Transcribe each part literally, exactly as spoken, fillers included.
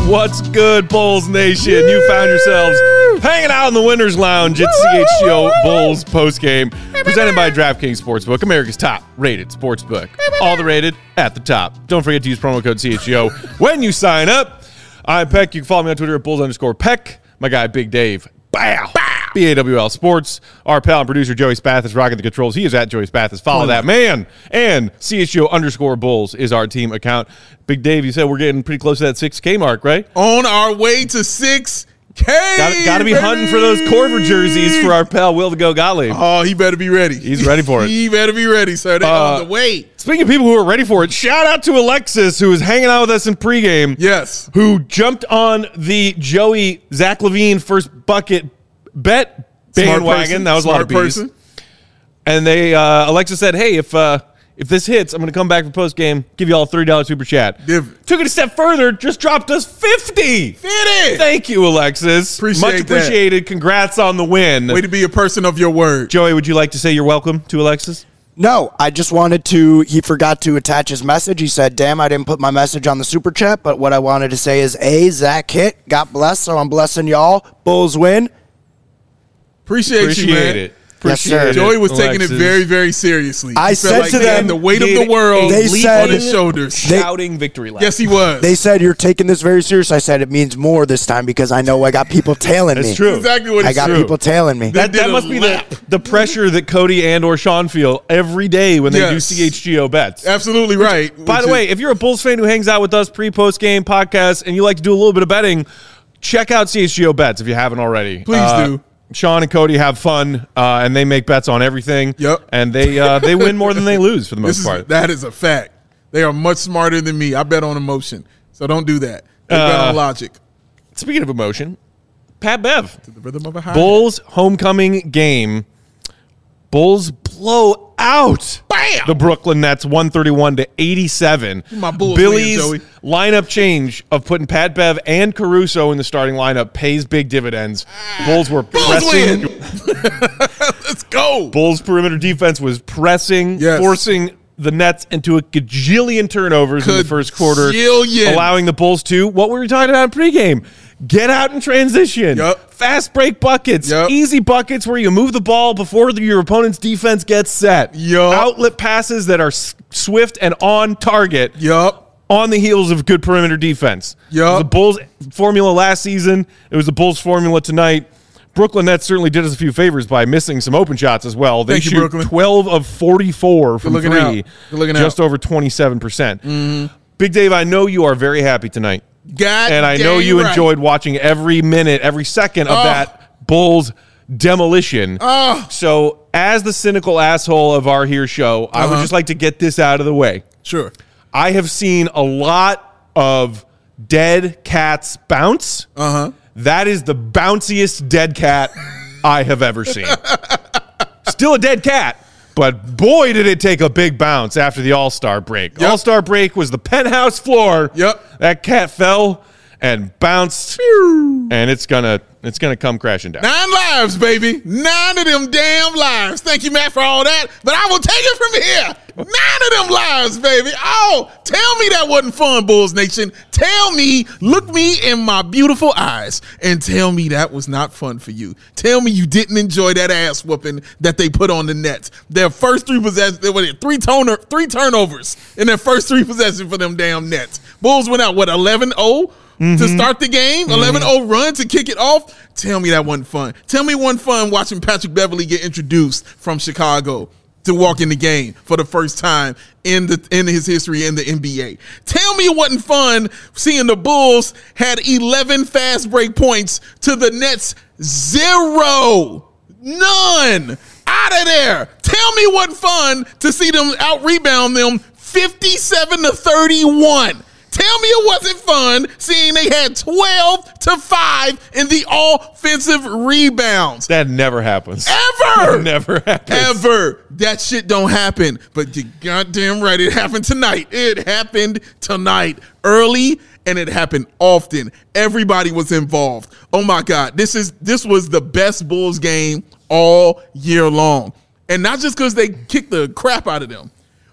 What's good, Bulls Nation? You found yourselves hanging out in the Winners Lounge at C H G O Bulls postgame, presented by DraftKings Sportsbook, America's top-rated sportsbook. All the rated at the top. Don't forget to use promo code C H G O when you sign up. I'm Peck. You can follow me on Twitter at Bulls underscore Peck. My guy, Big Dave. Bow. B A W L Sports. Our pal and producer, Joey Spath, is rocking the controls. He is at Joey Spath. Follow that man. And C H G O underscore Bulls is our team account. Big Dave, you said we're getting pretty close to that six K mark, right? On our way to six K. Got, got to be baby. hunting for those Corver jerseys for our pal, Will the Go Gottlieb. Oh, he better be ready. He's ready for it. He better be ready, sir. They're Uh, on the way. Speaking of people who are ready for it, shout out to Alexis, who was hanging out with us in pregame. Yes. Who jumped on the Joey Zach LaVine first bucket bet bandwagon. That was Smart a lot of bees. person. And they, uh, Alexa said, hey, if uh, if this hits, I'm going to come back for post game, give you all a thirty dollars super chat. Div- Took it a step further, just dropped us fifty. Fitty. Thank you, Alexis. Appreciate Much that. appreciated. Congrats on the win. Way to be a person of your word. Joey, would you like to say you're welcome to Alexis? No, I just wanted to, he forgot to attach his message. He said, damn, I didn't put my message on the super chat, but what I wanted to say is, A, Zach hit, got blessed, so I'm blessing y'all. Bulls win. Appreciate, Appreciate you, man. it. Yes, sir. Appreciate it, Joey was taking Alexis. it very, very seriously. I He said felt like to he had them, the weight of did the world they said- on his shoulders. They- Shouting victory lap. Yes, he was. They said, you're taking this very serious. I said, it means more this time because I know I got people tailing me. That's true. exactly what I it's got true. people tailing me. That, They did that a must be lap. the, the pressure that Cody and or Sean feel every day when they do Yes. C H G O bets. Absolutely right. By Which the is- way, if you're a Bulls fan who hangs out with us pre-post game podcasts and you like to do a little bit of betting, check out C H G O Bets if you haven't already. Please Uh, do. Sean and Cody have fun, uh, and they make bets on everything. Yep. And they uh, they win more than they lose for the most this is, part. that is a fact. They are much smarter than me. I bet on emotion. So don't do that. They bet Uh, on logic. Speaking of emotion, Pat Bev. To the rhythm of a high. Bulls homecoming game. Bulls blow out Bam! the Brooklyn Nets one thirty-one to eighty-seven. My Bulls Billy's win, Joey. lineup change of putting Pat Bev and Caruso in the starting lineup pays big dividends. Bulls were Bulls pressing. win. Let's go. Bulls perimeter defense was pressing, Yes. forcing the Nets into a gajillion turnovers in the first quarter, Gajillion. allowing the Bulls to, what we were talking about in pregame, get out in transition. Yup. Fast break buckets, Yup. easy buckets where you move the ball before the, your opponent's defense gets set. Yup. Outlet passes that are s- swift and on target. Yup. On the heels of good perimeter defense. Yup. It was the Bulls formula last season. It was the Bulls formula tonight. Brooklyn Nets certainly did us a few favors by missing some open shots as well. They Thank you, shoot Brooklyn. twelve of forty-four from looking three, out. Good looking just out. over twenty-seven percent. Mm-hmm. Big Dave, I know you are very happy tonight. God And I know dang you right. enjoyed watching every minute, every second of Oh. that Bulls demolition. Oh. So as the cynical asshole of our here show, I would Uh-huh. just like to get this out of the way. Sure. I have seen a lot of dead cats bounce. Uh-huh. That is the bounciest dead cat I have ever seen. Still a dead cat, but boy, did it take a big bounce after the All-Star break. Yep. All-Star break was the penthouse floor. Yep. That cat fell and bounced, and it's gonna it's gonna come crashing down. Nine lives, baby. Nine of them damn lives. Thank you, Matt, for all that. But I will take it from here. Nine of them lives, baby. Oh, tell me that wasn't fun, Bulls Nation. Tell me, look me in my beautiful eyes, and tell me that was not fun for you. Tell me you didn't enjoy that ass whooping that they put on the Nets. Their first three possessions, what it, three toner, three turnovers in their first three possessions for them damn Nets. Bulls went out, what, eleven oh? To start the game, eleven oh run to kick it off. Tell me that wasn't fun. Tell me it wasn't fun watching Patrick Beverley get introduced from Chicago to walk in the game for the first time in the in his history in the N B A. Tell me it wasn't fun seeing the Bulls had eleven fast break points to the Nets zero. None. Out of there. Tell me it wasn't fun to see them out rebound them fifty-seven to thirty-one. Tell me it wasn't fun seeing they had twelve to five in the offensive rebounds. That never happens. Ever. That never happens. Ever. That shit don't happen. But you goddamn right, it happened tonight. It happened tonight. Early, and it happened often. Everybody was involved. Oh my God. This is this was the best Bulls game all year long. And not just because they kicked the crap out of them,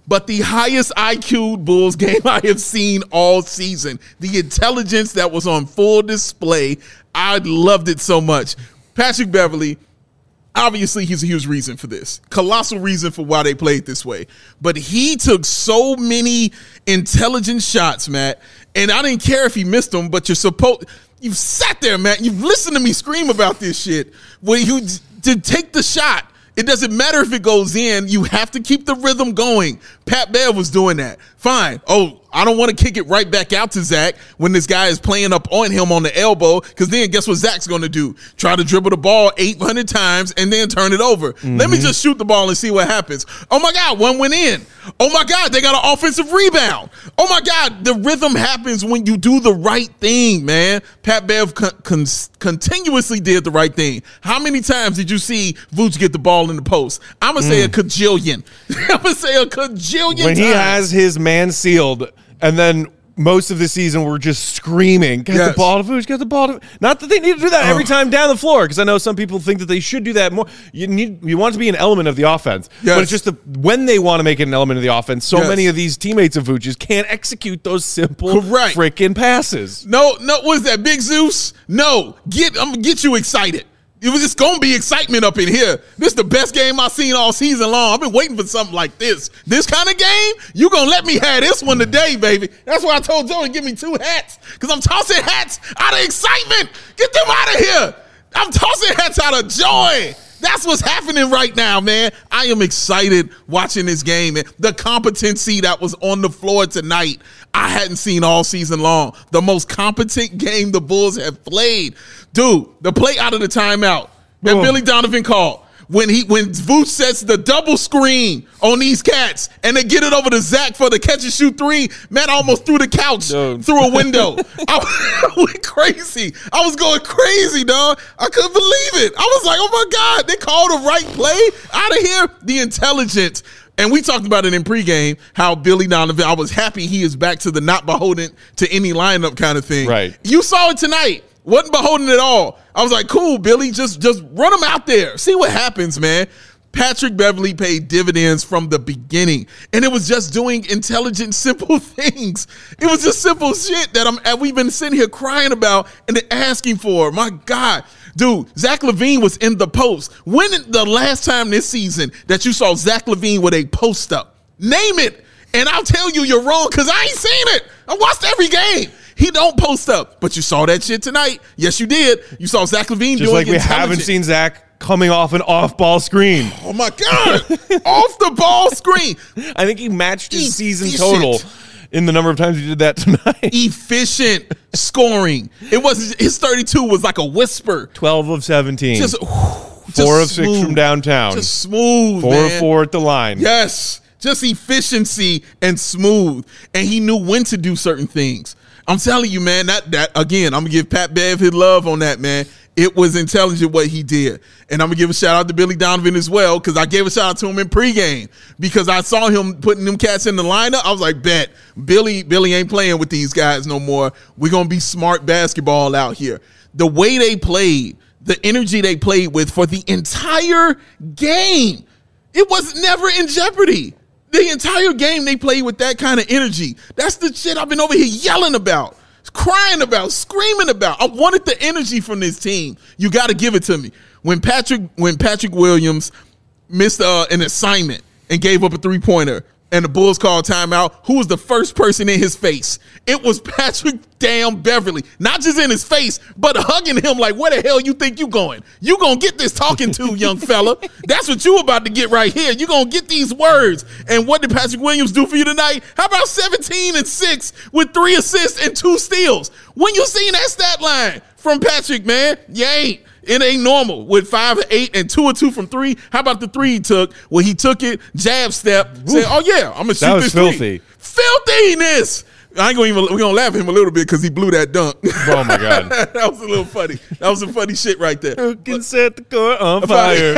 but the highest I Q Bulls game I have seen all season. The intelligence that was on full display, I loved it so much. Patrick Beverley, obviously he's a huge reason for this. Colossal reason for why they played this way. But he took so many intelligent shots, Matt, and I didn't care if he missed them, but you're supposed – you've sat there, Matt. You've listened to me scream about this shit. When you to take the shot, it doesn't matter if it goes in. You have to keep the rhythm going. Pat Bev was doing that. Fine. Oh, I don't want to kick it right back out to Zach when this guy is playing up on him on the elbow, because then guess what Zach's going to do? Try to dribble the ball eight hundred times and then turn it over. Mm-hmm. Let me just shoot the ball and see what happens. Oh, my God, one went in. Oh, my God, they got an offensive rebound. Oh, my God, the rhythm happens when you do the right thing, man. Pat Bev con- con- continuously did the right thing. How many times did you see Vooch get the ball in the post? I'm going to say mm. a cajillion. I'm going to say a cajillion when times. He has his man sealed, and then most of the season we're just screaming, get yes. the ball to Vooch, get the ball to – not that they need to do that every uh, time down the floor, because I know some people think that they should do that more. You need you want it to be an element of the offense. Yes. But it's just the, when they want to make it an element of the offense, so yes. many of these teammates of Vooch's can't execute those simple freaking passes. No, no, what is that, Big Zeus? No, get I'm going to get you excited. It's going to be excitement up in here. This is the best game I've seen all season long. I've been waiting for something like this. This kind of game, you going to let me have this one today, baby. That's why I told Joe to give me two hats, because I'm tossing hats out of excitement. Get them out of here. I'm tossing hats out of joy. That's what's happening right now, man. I am excited watching this game, man. The competency that was on the floor tonight, I hadn't seen all season long. The most competent game the Bulls have played. Dude, the play out of the timeout that Whoa. Billy Donovan called. When he when Vooch sets the double screen on these cats and they get it over to Zach for the catch and shoot three, man, I almost threw the couch Dude. through a window. I, I went crazy. I was going crazy, dog. I couldn't believe it. I was like, oh my God, they called the right play out of here. The intelligence. And we talked about it in pregame, how Billy Donovan, I was happy he is back to the not beholden to any lineup kind of thing. Right. You saw it tonight. Wasn't beholden at all. I was like, cool, Billy, just, just run them out there. See what happens, man. Patrick Beverley paid dividends from the beginning, and it was just doing intelligent, simple things. It was just simple shit that I'm, that we've been sitting here crying about and asking for. My God. Dude, Zach LaVine was in the post. When the last time this season that you saw Zach LaVine with a post up? Name it. And I'll tell you you're wrong, because I ain't seen it. I watched every game. He don't post up, but you saw that shit tonight. Yes, you did. You saw Zach LaVine just doing like we haven't seen Zach coming off an off-ball screen. Oh, my God. Off the ball screen. I think he matched his Efficient. season total in the number of times he did that tonight. Efficient scoring. It wasn't his thirty-two was like a whisper. twelve of seventeen. Just, whew, Four just of smooth. six from downtown. Just smooth, Four man. of four at the line. Yes. Just efficiency and smooth. And he knew when to do certain things. I'm telling you, man, that, that again, I'm going to give Pat Bev his love on that, man. It was intelligent what he did. And I'm going to give a shout out to Billy Donovan as well, because I gave a shout out to him in pregame, because I saw him putting them cats in the lineup. I was like, bet, Billy, Billy ain't playing with these guys no more. We're going to be smart basketball out here. The way they played, the energy they played with for the entire game, it was never in jeopardy. The entire game they played with that kind of energy. That's the shit I've been over here yelling about, crying about, screaming about. I wanted the energy from this team. You got to give it to me. When Patrick when Patrick Williams missed uh, an assignment and gave up a three-pointer and the Bulls called timeout, who was the first person in his face? It was Patrick damn Beverley. Not just in his face, but hugging him like, where the hell you think you going? You going to get this talking to, young fella. That's what you about to get right here. You going to get these words. And what did Patrick Williams do for you tonight? How about seventeen and six with three assists and two steals? When you seen that stat line from Patrick, man, you ain't. It ain't normal with five, eight, and two or two from three. How about the three he took? Well, he took it, jab step, said, "Oh yeah, I'm gonna shoot that was this filthy. three." Filthiness. I ain't gonna even. We're gonna laugh at him a little bit because he blew that dunk. Oh my God, that was a little funny. That was some funny shit right there. Who can set the court on fire?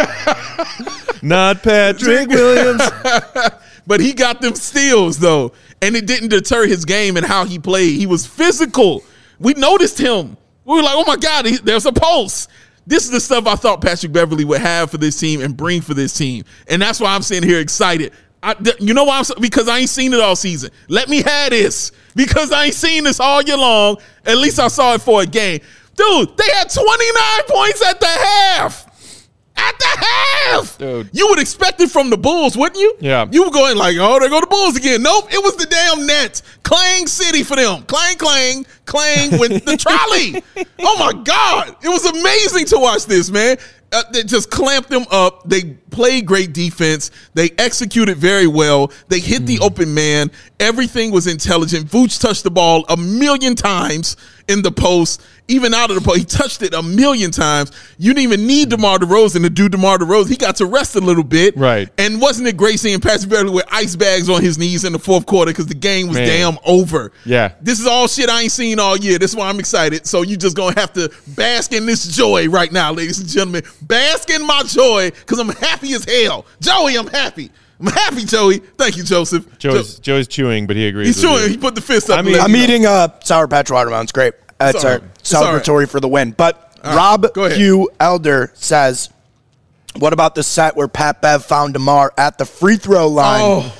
Not Patrick Williams. But he got them steals though, and it didn't deter his game and how he played. He was physical. We noticed him. We were like, "Oh my God, he, there's a pulse." This is the stuff I thought Patrick Beverley would have for this team and bring for this team. And that's why I'm sitting here excited. I, you know why? I'm so, because I ain't seen it all season. Let me have this because I ain't seen this all year long. At least I saw it for a game. Dude, they had twenty-nine points at the half. At the half. Dude. You would expect it from the Bulls, wouldn't you? Yeah. You were going like, oh, there go the Bulls again. Nope, it was the damn Nets. Clang City for them. Clang, clang, clang with the trolley. Oh, my God. It was amazing to watch this, man. Uh, they just clamped them up. They played great defense. They executed very well. They hit the open man. Everything was intelligent. Vooch touched the ball a million times in the post, even out of the post. He touched it a million times. You didn't even need DeMar DeRozan to do DeMar DeRozan. He got to rest a little bit. Right. And wasn't it great seeing Patrick Beverley with ice bags on his knees in the fourth quarter because the game was Man. damn over. Yeah. This is all shit I ain't seen all year. This is why I'm excited. So you just going to have to bask in this joy right now, ladies and gentlemen. Bask in my joy because I'm happy as hell. Joey, I'm happy. I'm happy, Joey. Thank you, Joseph. Joey's, Joey's chewing, but he agrees. He's with chewing. you. He put the fist up. I mean, and let I'm me know. eating a Sour Patch watermelon. It's great. That's all our right. It's all right. celebratory for the win. But All right. Rob Go ahead. Hugh Elder says, what about the set where Pat Bev found DeMar at the free throw line? Oh.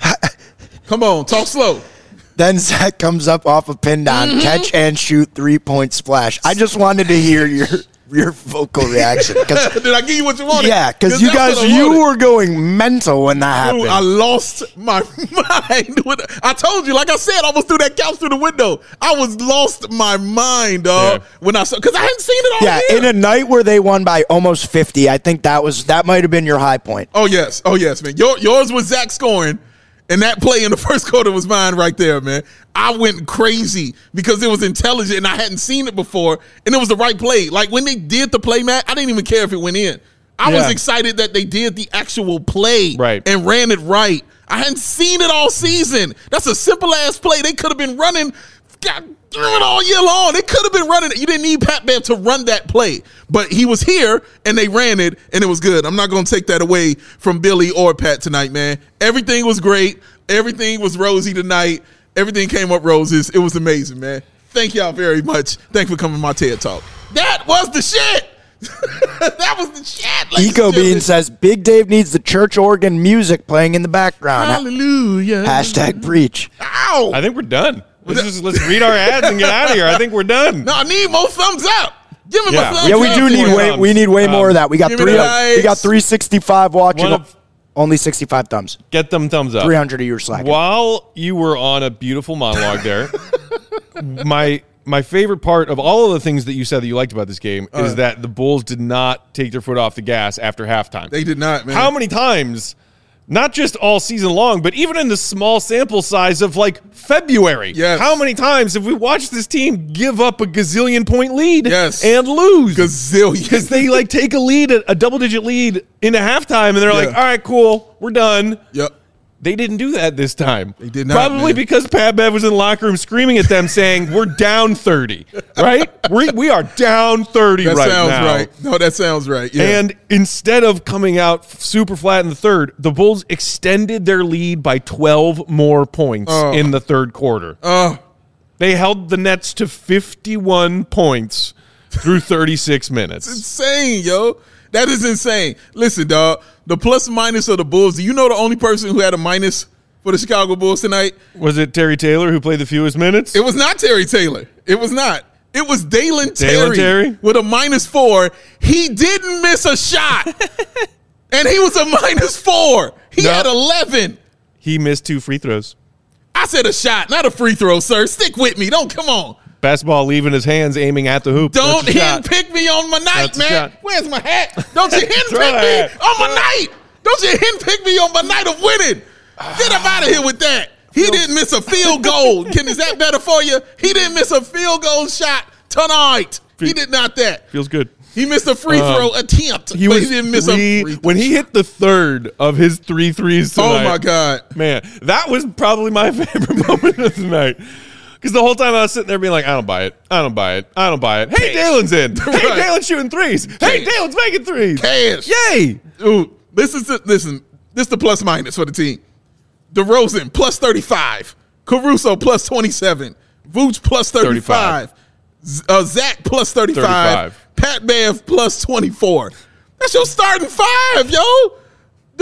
Come on. Talk slow. Then Zach comes up off a pin down, Mm-hmm. catch and shoot, three-point splash. I just wanted to hear your your vocal reaction. Did I give you what you wanted? Yeah, because you that's guys, what I you wanted. were going mental when that happened. Dude, I lost my mind. I told you, like I said, I almost threw that couch through the window. I was lost my mind, dog, Yeah. when I saw, because I hadn't seen it all yeah, year. in a night where they won by almost fifty, I think that was that might have been your high point. Oh, yes. Oh, yes, man. Your, yours was Zach scoring, and that play in the first quarter was mine right there, man. I went crazy because it was intelligent, and I hadn't seen it before, and it was the right play. Like, when they did the play, Matt, I didn't even care if it went in. I was Yeah. excited that they did the actual play Right. and ran it right. I hadn't seen it all season. That's a simple-ass play. They could have been running God, damn it all year long. They could have been running it. You didn't need Pat Bev to run that play. But he was here, and they ran it, and it was good. I'm not going to take that away from Billy or Pat tonight, man. Everything was great. Everything was rosy tonight. Everything came up roses. It was amazing, man. Thank y'all very much. Thanks for coming to my TED Talk. That was the shit. That was the shit. ladies Eco and Bean gentlemen. says Big Dave needs the church organ music playing in the background. Hallelujah. Hashtag preach. Ow. I think we're done. Let's just let's read our ads and get out of here. I think we're done. No, I need more thumbs up. Give me Yeah. my thumbs Yeah, we up. do need more way thumbs. we need way more Um, of that. We got give me three. the likes. We got three sixty-five watching. One of- Only sixty-five thumbs. Get them thumbs up. Three hundred of your slack. While you were on a beautiful monologue there, my my favorite part of all of the things that you said that you liked about this game Uh. is that the Bulls did not take their foot off the gas after halftime. They did not, man. How many times, not just all season long, but even in the small sample size of like February, Yes. how many times have we watched this team give up a gazillion point lead Yes. and lose? Gazillion. Because they like take a lead, a, a double digit lead into halftime, and they're like, Yeah. all right, cool, we're done. Yep. They didn't do that this time. They did not, Probably man. because Pat Bev was in the locker room screaming at them saying, we're down thirty, right? we we are down thirty That right sounds now. right. No, that sounds right. Yeah. And instead of coming out super flat in the third, the Bulls extended their lead by twelve more points Oh. in the third quarter. Oh, They held the Nets to fifty-one points through thirty-six minutes. insane, yo. That is insane. Listen, dog. The plus minus of the Bulls. Do you know the only person who had a minus for the Chicago Bulls tonight? Was it Terry Taylor who played the fewest minutes? It was not Terry Taylor. It was not. It was Dalen Terry, Terry? with a minus four. He didn't miss a shot. And he was a minus four. He No. had eleven. He missed two free throws. I said a shot, not a free throw, sir. Stick with me. Don't come on. Basketball leaving his hands, aiming at the hoop. Don't That's a shot. hen pick me on my night, That's a man. shot. Where's my hat? Don't you hen Throw pick the me hat. on my night. Don't you hen pick me on my night of winning. Get up out of here with that. He didn't miss a field goal. Can is that better for you? He didn't miss a field goal shot tonight. He did not that. Feels good. He missed a free Um, throw attempt, He but was he didn't miss three, a free throw. when he hit the third of his three threes Oh tonight. my God. Man, that was probably my favorite moment of the night. Because the whole time I was sitting there being like, I don't buy it. I don't buy it. I don't buy it. Hey, Cash. Dalen's in. Hey, Right. Dalen's shooting threes. Hey, Cash. Dalen's making threes. Cash. Yay. Dude, this is the, listen, this is the plus minus for the team. DeRozan plus thirty-five. Caruso plus twenty-seven. Vooch plus thirty-five. Z- Uh, Zach plus thirty-five. thirty-five. Pat Bev plus twenty-four. That's your starting five, yo.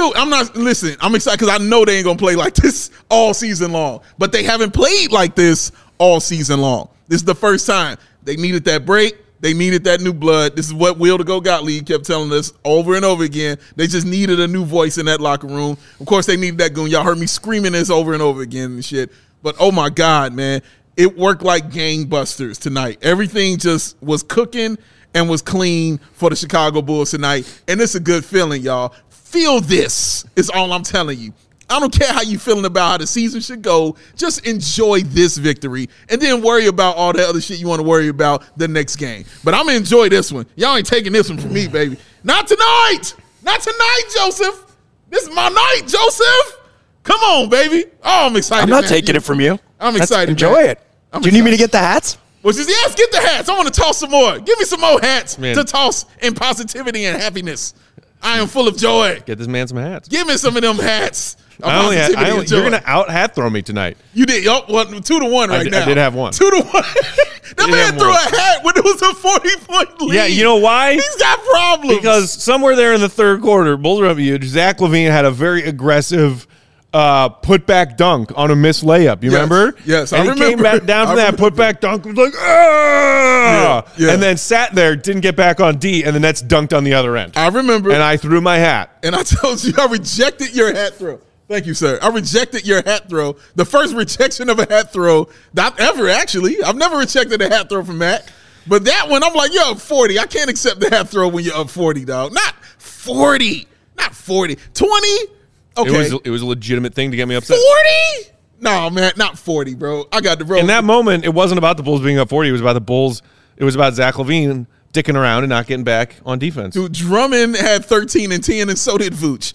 Dude, I'm not, listen, I'm excited because I know they ain't going to play like this all season long. But they haven't played like this all season long. This is the first time. They needed that break. They needed that new blood. This is what Will to Go Gottlieb kept telling us over and over again. They just needed a new voice in that locker room. Of course, they needed that goon. Y'all heard me screaming this over and over again and shit. But, oh, my God, man. It worked like gangbusters tonight. Everything just was cooking and was clean for the Chicago Bulls tonight. And it's a good feeling, y'all. Feel this is all I'm telling you. I don't care how you feeling about how the season should go. Just enjoy this victory and then worry about all the other shit you want to worry about the next game. But I'm going to enjoy this one. Y'all ain't taking this one from me, baby. Not tonight. Not tonight, Joseph. This is my night, Joseph. Come on, baby. Oh, I'm excited. I'm not man. taking it from you. I'm Let's excited. Enjoy man. it. I'm Do you excited. need me to get the hats? Well, just, yes, get the hats. I want to toss some more. Give me some more hats Man. to toss in positivity and happiness. I am full of joy. Get this man some hats. Give me some of them hats. Of I only had, positivity I only, and joy. you're going to out hat throw me tonight. You did. Yup, well, two to one right I did, now. I did have one. Two to one. That Did man have threw one. a hat when it was a forty-point lead. Yeah, you know why? He's got problems. Because somewhere there in the third quarter, Bulls were up huge. Zach LaVine had a very aggressive uh, put back dunk on a missed layup. You Yes, remember? yes, I and he came remember. back down from I that put back dunk. Was like, ah! Yeah, yeah. And then sat there, didn't get back on D, and the Nets dunked on the other end. I remember. and I threw my hat. And I told you I rejected your hat throw. Thank you, sir. I rejected your hat throw. The first rejection of a hat throw, not ever actually. I've never rejected a hat throw from Matt. But that one, I'm like, you're up forty. I can't accept the hat throw when you're up forty, dog. Not forty. Not forty. twenty? Okay. It was it was a legitimate thing to get me upset. forty? No, man, not forty, bro. I got the bro. In that moment, it wasn't about the Bulls being up forty. It was about the Bulls. It was about Zach LaVine dicking around and not getting back on defense. Dude, Drummond had thirteen and ten, and so did Vooch.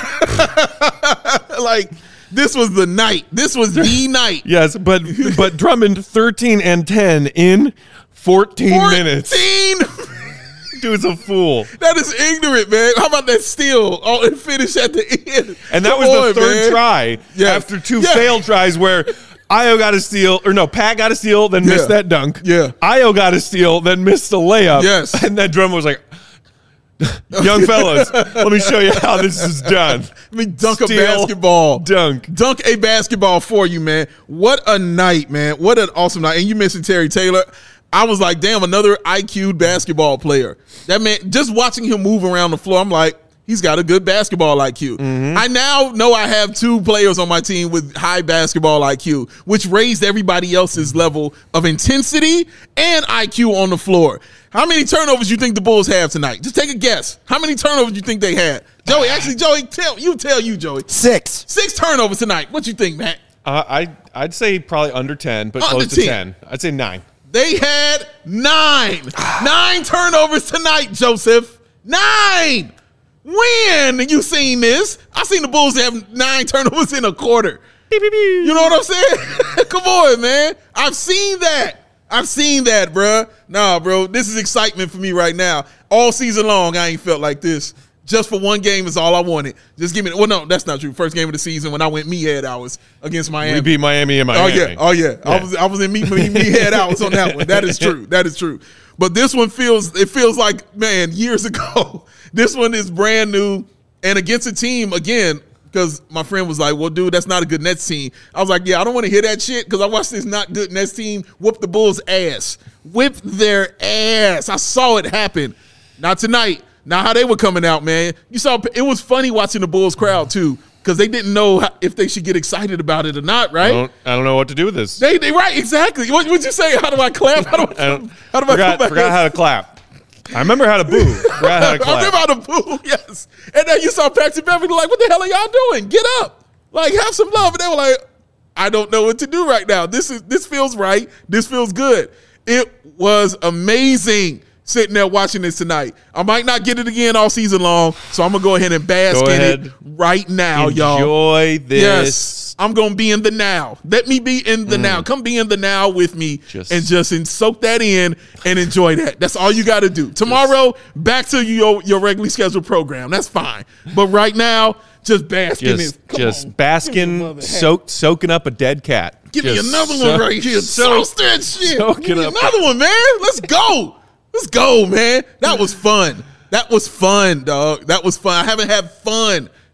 Like, this was the night. This was the night. Yes, but but Drummond thirteen and ten in fourteen, minutes. fourteen Dude's a fool. That is ignorant, man. How about that steal? Oh, and finish at the end. And that Come was on, the third man. try Yes. after two Yeah. failed tries where Io got a steal, or no, Pat got a steal, then missed Yeah. that dunk. Yeah. Io got a steal, then missed the layup. Yes. And then Drummond was like, young fellas, let me show you how this is done. Let me dunk Steal, a basketball. Dunk. Dunk a basketball for you, man. What a night, man. What an awesome night. And you mentioned Terry Taylor. I was like, damn, another I Q'd basketball player. That man, just watching him move around the floor, I'm like, he's got a good basketball I Q. Mm-hmm. I now know I have two players on my team with high basketball I Q, which raised everybody else's level of intensity and I Q on the floor. How many turnovers do you think the Bulls have tonight? Just take a guess. How many turnovers do you think they had? Joey, actually, Joey, tell you tell you, Joey. Six. Six turnovers tonight. What you think, Matt? Uh, I, I'd say probably under ten, but Under close to ten. ten. I'd say nine. They had nine. Nine turnovers tonight, Joseph. Nine. When you seen this? I seen the Bulls have nine turnovers in a quarter. You know what I'm saying? Come on, man. I've seen that. I've seen that, bruh. Nah, bro. This is excitement for me right now. All season long, I ain't felt like this. Just for one game is all I wanted. Just give me. Well, no, that's not true. First game of the season when I went me head hours against Miami. We beat Miami in Oh Miami. yeah, oh yeah. I Yeah. was I was in me me, me head out on that one. That is true. That is true. But this one feels it feels like, man, years ago. This one is brand new and against a team again. Because my friend was like, well, dude, that's not a good Nets team. I was like, yeah, I don't want to hear that shit because I watched this not good Nets team whoop the Bulls' ass. Whip their ass. I saw it happen. Not tonight. Not how they were coming out, man. You saw it was funny watching the Bulls crowd, too, because they didn't know how, if they should get excited about it or not, right? I don't, I don't know what to do with this. They, they right, exactly. What would you say? How do I clap? How do I, I don't, how do I forgot, come back? forgot how to clap. I remember how to boo. Forgot how to clap. I remember how to boo, yes. And then you saw Patrick Beverly like, what the hell are y'all doing? Get up. Like, have some love. And they were like, I don't know what to do right now. This is this feels right. This feels good. It was amazing sitting there watching this tonight. I might not get it again all season long, so I'm going to go ahead and bask Go in ahead. it right now, y'all. Enjoy this. Yes, I'm going to be in the now. Let me be in the now. Come be in the now with me Just- and just and soak that in and enjoy that. That's all you got to do. Tomorrow, back to your, your regularly scheduled program. That's fine. But right now, just bask in Just, it. Come just on. basking, soak, soaking up a dead cat. Give Just me another so- one right here. so- Sauce that shit. soak Give it me up. another one, man. Let's go. Let's go, man. That was fun. That was fun, dog. That was fun. I haven't had fun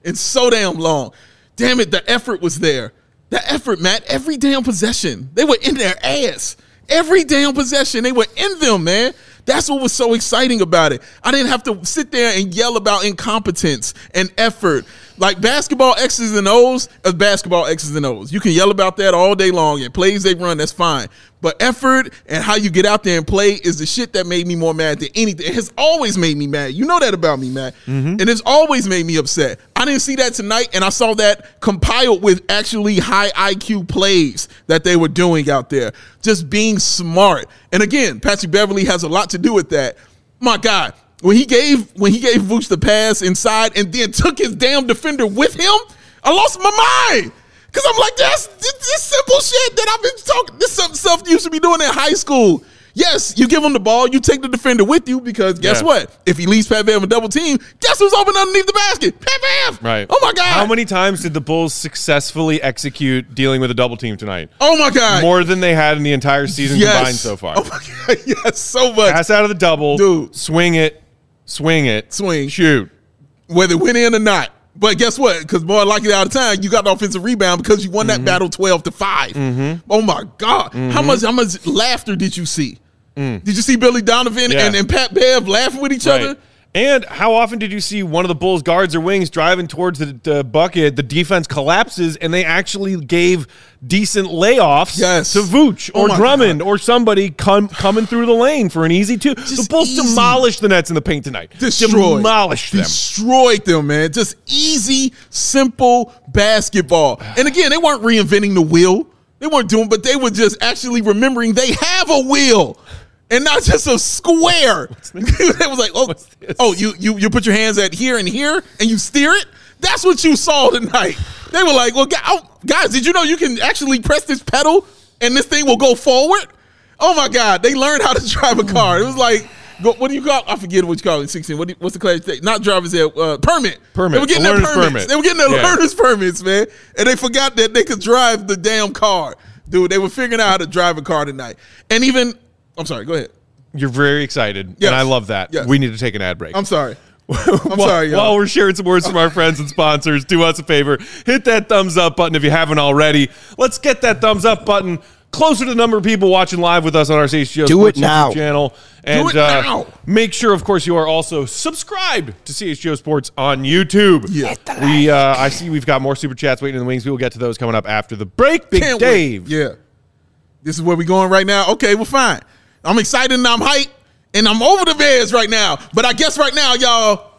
in so damn long. Damn it, the effort was there. The effort, Matt, every damn possession. They were in their ass. Every damn possession, they were in them, man. That's what was so exciting about it. I didn't have to sit there and yell about incompetence and effort. Like basketball X's and O's is basketball X's and O's. You can yell about that all day long. And plays they run, that's fine. But effort and how you get out there and play is the shit that made me more mad than anything. It has always made me mad. You know that about me, Matt. Mm-hmm. And it's always made me upset. I didn't see that tonight, and I saw that compiled with actually high I Q plays that they were doing out there. Just being smart. And again, Patrick Beverley has a lot to do with that. My God, when he gave when he gave Vooch the pass inside and then took his damn defender with him, I lost my mind. Because I'm like, that's this, this simple shit that I've been talking. This is stuff you used to be doing in high school. Yes, you give him the ball, you take the defender with you because guess Yeah. what? If he leaves Pat Bev a double team, guess who's open underneath the basket? Pat Bev. Right. Oh my God. How many times did the Bulls successfully execute dealing with a double team tonight? Oh my God. More than they had in the entire season yes. combined so far. Oh my God. Yes, so much. Pass out of the double, Dude. swing it, swing it, Swing. shoot. Whether it went in or not. But guess what? Because more likely out of time, you got the offensive rebound because you won that Mm-hmm. battle twelve to five. Mm-hmm. Oh my God. Mm-hmm. How much how much laughter did you see? Mm. Did you see Billy Donovan Yeah. and, and Pat Bev laughing with each Right. other? And how often did you see one of the Bulls guards or wings driving towards the, the bucket, the defense collapses, and they actually gave decent layoffs Yes. to Vooch Oh or my Drummond God. or somebody come, coming through the lane for an easy two. Just The Bulls easy. demolished the Nets in the paint tonight. Destroyed. Demolished them. Destroyed them, man. Just easy, simple basketball. And again, they weren't reinventing the wheel. They weren't doing, but they were just actually remembering they have a wheel. And not just a square. It was like, oh, oh, you you you put your hands at here and here and you steer it? That's what you saw tonight. They were like, well, guys, did you know you can actually press this pedal and this thing will go forward? Oh my God, they learned how to drive a car. It was like, go, what do you call? I forget what you call it. Sixteen. What do you, what's the class? Not driver's ed, uh, permit. Permit. They were getting A their learner's permits. permit. They were getting their Yeah. learner's permits, man, and they forgot that they could drive the damn car, dude. They were figuring out how to drive a car tonight, and even. I'm sorry. Go ahead. You're very excited, Yes. and I love that. Yes. We need to take an ad break. I'm sorry. I'm while, sorry, y'all. While we're sharing some words from our friends and sponsors, do us a favor. Hit that thumbs up button if you haven't already. Let's get that thumbs up button closer to the number of people watching live with us on our C H G O Do Sports it now. YouTube channel. And it uh, now. make sure, of course, you are also subscribed to C H G O Sports on YouTube. Yeah. We, uh, I see we've got more super chats waiting in the wings. We will get to those coming up after the break. Big Can't Dave. wait. Yeah. This is where we're going right now. Okay, well, fine. I'm excited and I'm hyped and I'm over the Bears right now. But I guess right now, y'all,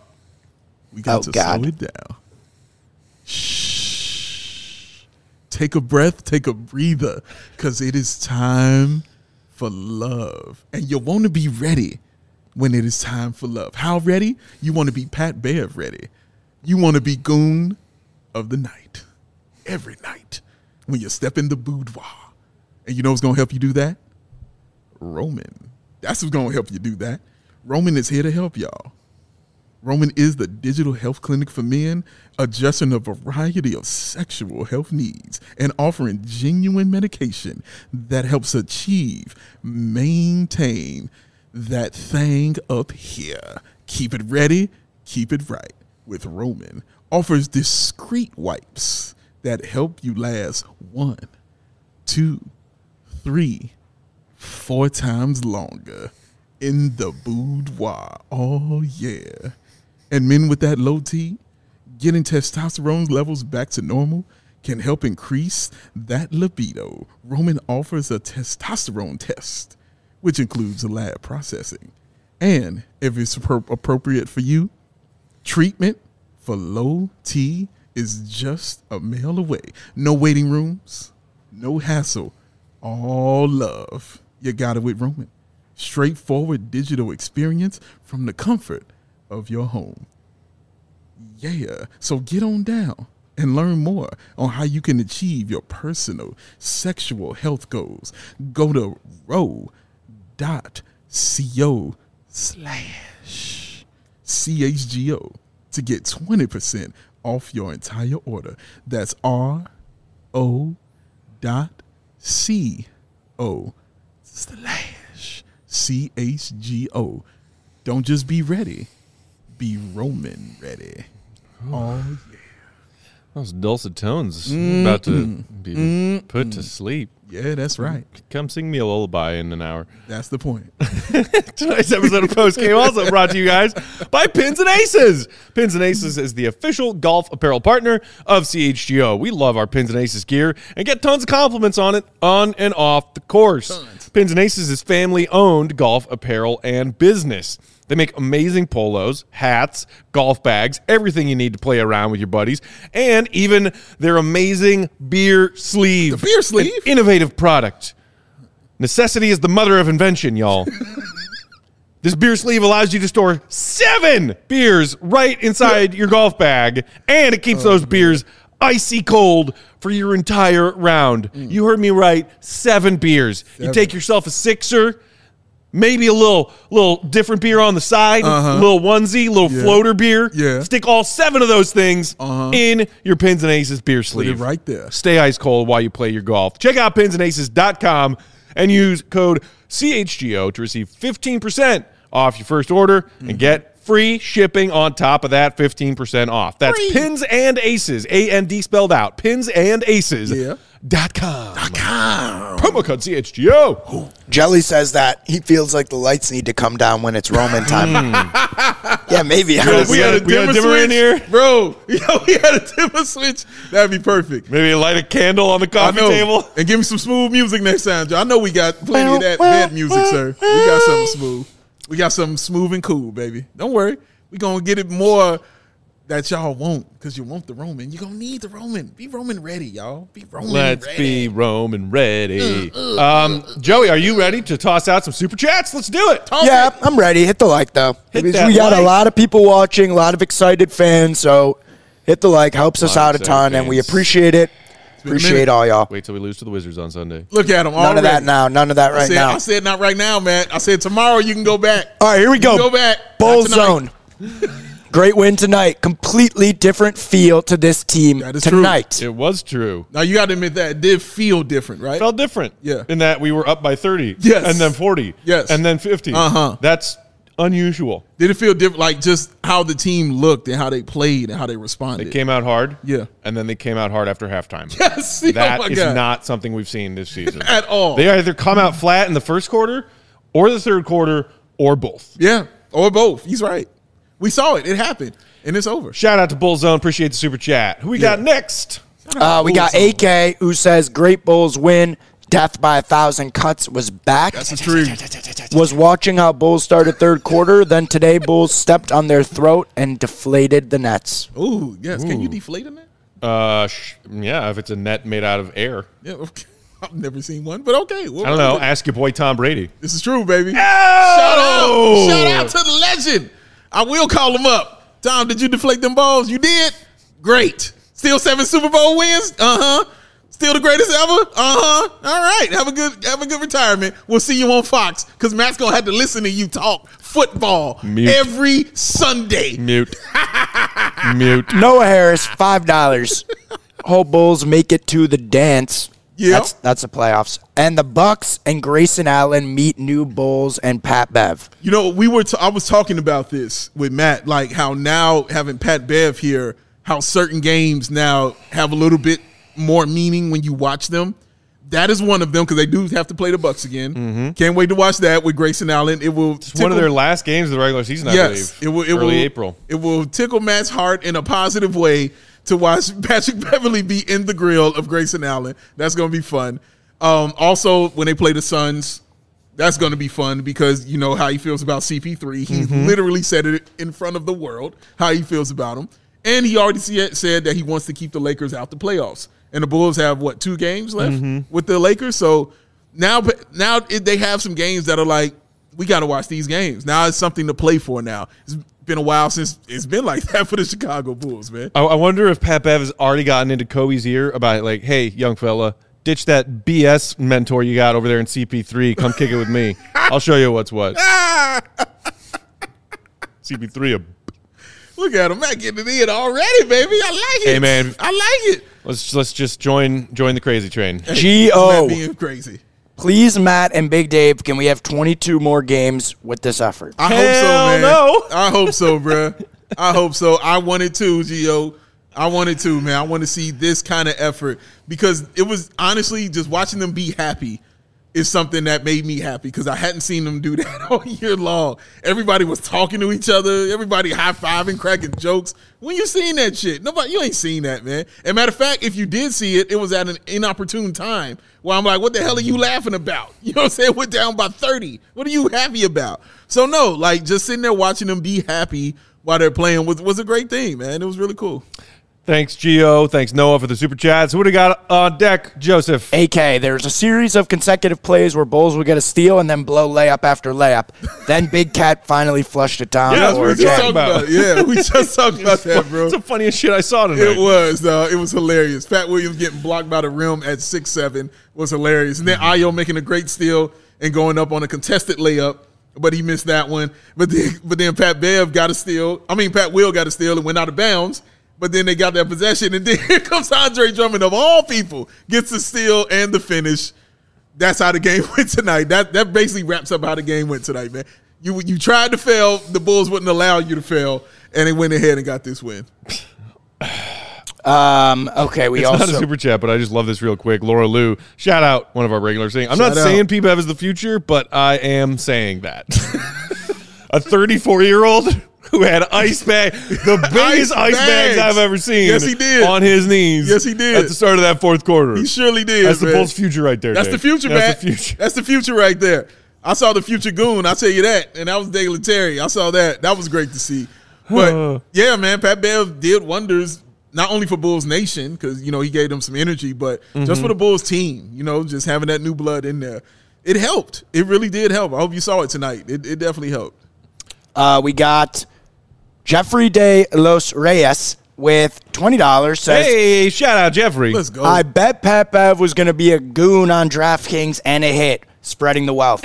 we got Oh, to God. slow it down. Shh. Take a breath, take a breather, because it is time for love. And you want to be ready when it is time for love. How ready? You want to be Pat Bev ready. You want to be goon of the night. Every night when you step in the boudoir. And you know what's going to help you do that? Roman. That's what's going to help you do that. Roman is here to help y'all. Roman is the digital health clinic for men, addressing a variety of sexual health needs and offering genuine medication that helps achieve, maintain that thing up here. Keep it ready, keep it right. With Roman, offers discreet wipes that help you last one, two, three, four times longer in the boudoir. Oh, yeah. And men with that low T, getting testosterone levels back to normal can help increase that libido. Roman offers a testosterone test, which includes lab processing. And if it's appro- appropriate for you, treatment for low T is just a mail away. No waiting rooms, no hassle, all love. You got it with Roman. Straightforward digital experience from the comfort of your home. Yeah, so get on down and learn more on how you can achieve your personal sexual health goals. Go to row dot co slash C H G O to get twenty percent off your entire order. That's R O dot C O slash C H G O. Don't just be ready, be Roman ready. Oh, yeah. Those dulcet tones mm-hmm. about to be mm-hmm. put to sleep. Yeah, that's right. Come sing me a lullaby in an hour. That's the point. Tonight's episode of Post Game also brought to you guys by Pins and Aces. Pins and Aces is the official golf apparel partner of C H G O. We love our Pins and Aces gear and get tons of compliments on it on and off the course. Tons. Pins and Aces is family-owned golf apparel and business. They make amazing polos, hats, golf bags, everything you need to play around with your buddies, and even their amazing beer sleeve. The beer sleeve? An innovative product. Necessity is the mother of invention, y'all. This beer sleeve allows you to store seven beers right inside your golf bag, and it keeps oh, those man. beers icy cold for your entire round. Mm. You heard me right, seven beers. Seven. You take yourself a sixer, maybe a little little different beer on the side, uh-huh. a little onesie, a little yeah. floater beer. Yeah. Stick all seven of those things uh-huh. in your Pins and Aces beer sleeve. Put it right there. Stay ice cold while you play your golf. Check out pins and aces dot com and use code C H G O to receive fifteen percent off your first order mm-hmm. and get free shipping on top of that fifteen percent off. That's free. Pins and Aces, A N D spelled out, pins and aces dot com. Yeah. .com. Promo code C H G O. Jelly says that he feels like the lights need to come down when it's Roman time. Yeah, maybe. Yo, we had a we dimmer, dimmer switch in here. Bro, yo, we had a dimmer switch. That'd be perfect. Maybe light a candle on the coffee table. And give me some smooth music next time, Joe. I know we got plenty of that bed music, sir. We got something smooth. We got something smooth and cool, baby. Don't worry. We're going to get it more that y'all want because you want the Roman. You're going to need the Roman. Be Roman ready, y'all. Be Roman Let's ready. be Roman ready. Uh, uh, um, uh, Joey, are you ready to toss out some super chats? Let's do it. Toss yeah, it. I'm ready. Hit the like, though. Hit we that got like. a lot of people watching, a lot of excited fans, so hit the like. Helps us out a ton, and we appreciate it. Appreciate all y'all. Wait till we lose to the Wizards on Sunday. Look at them None already. of that now. None of that right I said, now. I said not right now, man. I said tomorrow you can go back. All right, here we You go. can Go back. Bull Not tonight. zone. Great win tonight. Completely different feel to this team That is tonight. true. It was true. Now you got to admit that it did feel different, right? It felt different. Yeah. In that we were up by thirty. Yes. And then forty. Yes. And then fifty. Uh-huh. That's unusual. Did it feel different? Like just how the team looked and how they played and how they responded. They came out hard. Yeah. And then they came out hard after halftime. Yes. That oh my is God. not something we've seen this season. At all. They either come out flat in the first quarter or the third quarter or both. Yeah. Or both. He's right. We saw it. It happened. And it's over. Shout out to Bull Zone. Appreciate the super chat. Who we Yeah. got next? Uh, we got A K who says, great Bulls win. Death by a thousand cuts was back. That's the truth. Was watching how Bulls started third quarter. Then today, Bulls stepped on their throat and deflated the nets. Ooh, yes. Ooh. Can you deflate in that? Uh, sh- yeah, if it's a net made out of air. Yeah, okay. I've never seen one, but okay. We'll I don't know. Ask your boy Tom Brady. This is true, baby. Oh! Shout out. Shout out to the legend. I will call him up. Tom, did you deflate them balls? You did? Great. Still seven Super Bowl wins? Uh-huh. Still the greatest ever? Uh-huh. All right. Have a good have a good retirement. We'll see you on Fox because Matt's going to have to listen to you talk football Mute. every Sunday. Mute. Mute. Noah Harris, five dollars. Hope Bulls make it to the dance. Yeah. That's, that's the playoffs. And the Bucks and Grayson Allen meet new Bulls and Pat Bev. You know, we were. T- I was talking about this with Matt, like how now having Pat Bev here, how certain games now have a little bit more meaning when you watch them. That is one of them because they do have to play the Bucks again. Mm-hmm. Can't wait to watch that with Grayson Allen. It will. It's one of their last games of the regular season, I yes, believe. It will. It Early will, April. It will tickle Matt's heart in a positive way to watch Patrick Beverley be in the grill of Grayson Allen. That's going to be fun. Um, also, when they play the Suns, that's going to be fun because you know how he feels about C P three. He mm-hmm. literally said it in front of the world, how he feels about him. And he already said that he wants to keep the Lakers out the playoffs. And the Bulls have, what, two games left mm-hmm. with the Lakers? So now, now they have some games that are like, we got to watch these games. Now it's something to play for now. It's been a while since it's been like that for the Chicago Bulls, man. I, I wonder if Pat Bev has already gotten into Kobe's ear about, like, hey, young fella, ditch that B S mentor you got over there in C P three. Come kick it with me. I'll show you what's what. C P three, a look at him, Matt getting it in already, baby. I like it. Hey, man. I like it. Let's let's just join join the crazy train. Hey, G O. Matt being crazy. Please, Matt and Big Dave, can we have twenty-two more games with this effort? I Hell hope so, man. no. I hope so, bro. I hope so. I want it too, G O. I wanted to, man. I want to see this kind of effort because it was honestly just watching them be happy is something that made me happy because I hadn't seen them do that all year long. Everybody was talking to each other. Everybody high-fiving, cracking jokes. When you seen that shit? Nobody, you ain't seen that, man. And matter of fact, if you did see it, it was at an inopportune time where I'm like, what the hell are you laughing about? You know what I'm saying? We're down by thirty. What are you happy about? So, no, like just sitting there watching them be happy while they're playing was, was a great thing, man. It was really cool. Thanks, Gio. Thanks, Noah, for the super chats. What do we got on deck, Joseph? A K, there's a series of consecutive plays where Bulls would get a steal and then blow layup after layup. Then Big Cat finally flushed it down. Yeah, that's what we were just talking about. about. Yeah, we just talked about that, bro. It's the funniest shit I saw tonight. It was, though. It was hilarious. Pat Williams getting blocked by the rim at six seven was hilarious. And then Ayo making a great steal and going up on a contested layup, but he missed that one. But then, but then Pat Bev got a steal. I mean, Pat Will got a steal and went out of bounds. But then they got that possession, and then here comes Andre Drummond, of all people, gets the steal and the finish. That's how the game went tonight. That that basically wraps up how the game went tonight, man. You you tried to fail, the Bulls wouldn't allow you to fail, and they went ahead and got this win. Um, okay, we it's also not a super chat, but I just love this real quick. Laura Lou, shout out one of our regulars saying, I'm Shout not out. saying P B E V is the future, but I am saying that. A thirty-four-year-old who had ice bag, the biggest ice, Ice bags bags. I've ever seen. Yes, he did. On his knees. Yes, he did. At the start of that fourth quarter. He surely did. That's the man. Bulls' future right there. That's Dave. the future, man. That's the future. That's the future right there. I saw the future goon. I'll tell you that. And that was Dale Terry. I saw that. That was great to see. But, yeah, man, Pat Bev did wonders, not only for Bulls Nation, because, you know, he gave them some energy, but mm-hmm. just for the Bulls team, you know, just having that new blood in there. It helped. It really did help. I hope you saw it tonight. It, it definitely helped. uh, we got Jeffrey de Los Reyes with twenty dollars. Says, Hey, shout out Jeffrey. Let's go. I bet Pat Bev was going to be a goon on DraftKings and a hit, spreading the wealth. Hey,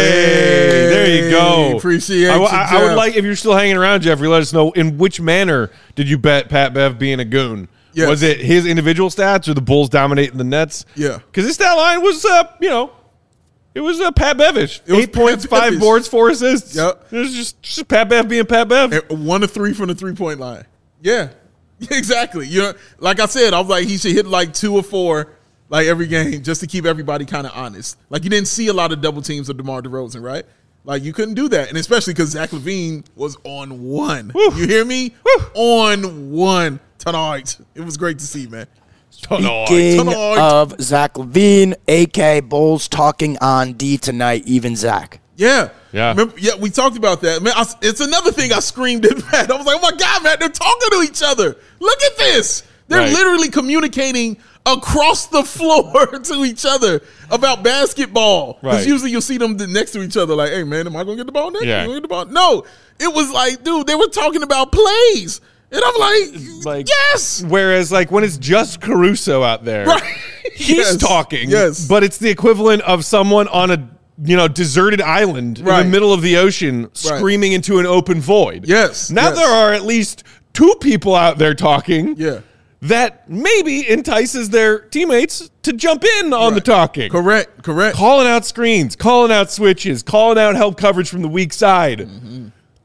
there you go. Appreciate I, you, I, I would Jeff. like, if you're still hanging around, Jeffrey, let us know in which manner did you bet Pat Bev being a goon? Yes. Was it his individual stats or the Bulls dominating the Nets? Yeah. Because this stat line was, uh, you know, it was uh, Pat Bevish. It was Eight points, Pat five Bevish. boards, four assists. Yep. It was just, just Pat Bev being Pat Bev. And one to three from the three-point line. Yeah, exactly. You know, like I said, I was like, he should hit like two or four like every game just to keep everybody kind of honest. Like you didn't see a lot of double teams of DeMar DeRozan, right? Like you couldn't do that, and especially because Zach LaVine was on one. Woo. You hear me? Woo. On one tonight. It was great to see, man. Speaking Tonight. of Zach LaVine, A K Bulls talking on D tonight, even Zach. Yeah. Yeah. Remember, yeah, we talked about that. Man, I, it's another thing I screamed at Matt. I was like, oh my God, Matt, they're talking to each other. Look at this. They're Right. literally communicating across the floor to each other about basketball. Because Right. usually you'll see them next to each other like, hey, man, am I going to get the ball next? Yeah. Am I gonna get the ball? No. It was like, dude, they were talking about plays. And I'm like, Like, yes. Whereas, like, when it's just Caruso out there, Right. he's Yes. talking. Yes. But it's the equivalent of someone on a, you know, deserted island Right. in the middle of the ocean screaming into an open void. Yes. Now Yes. there are at least two people out there talking. Yeah. That maybe entices their teammates to jump in on the Right. talking. Correct. Correct. Calling out screens, calling out switches, calling out help coverage from the weak side. Mm-hmm.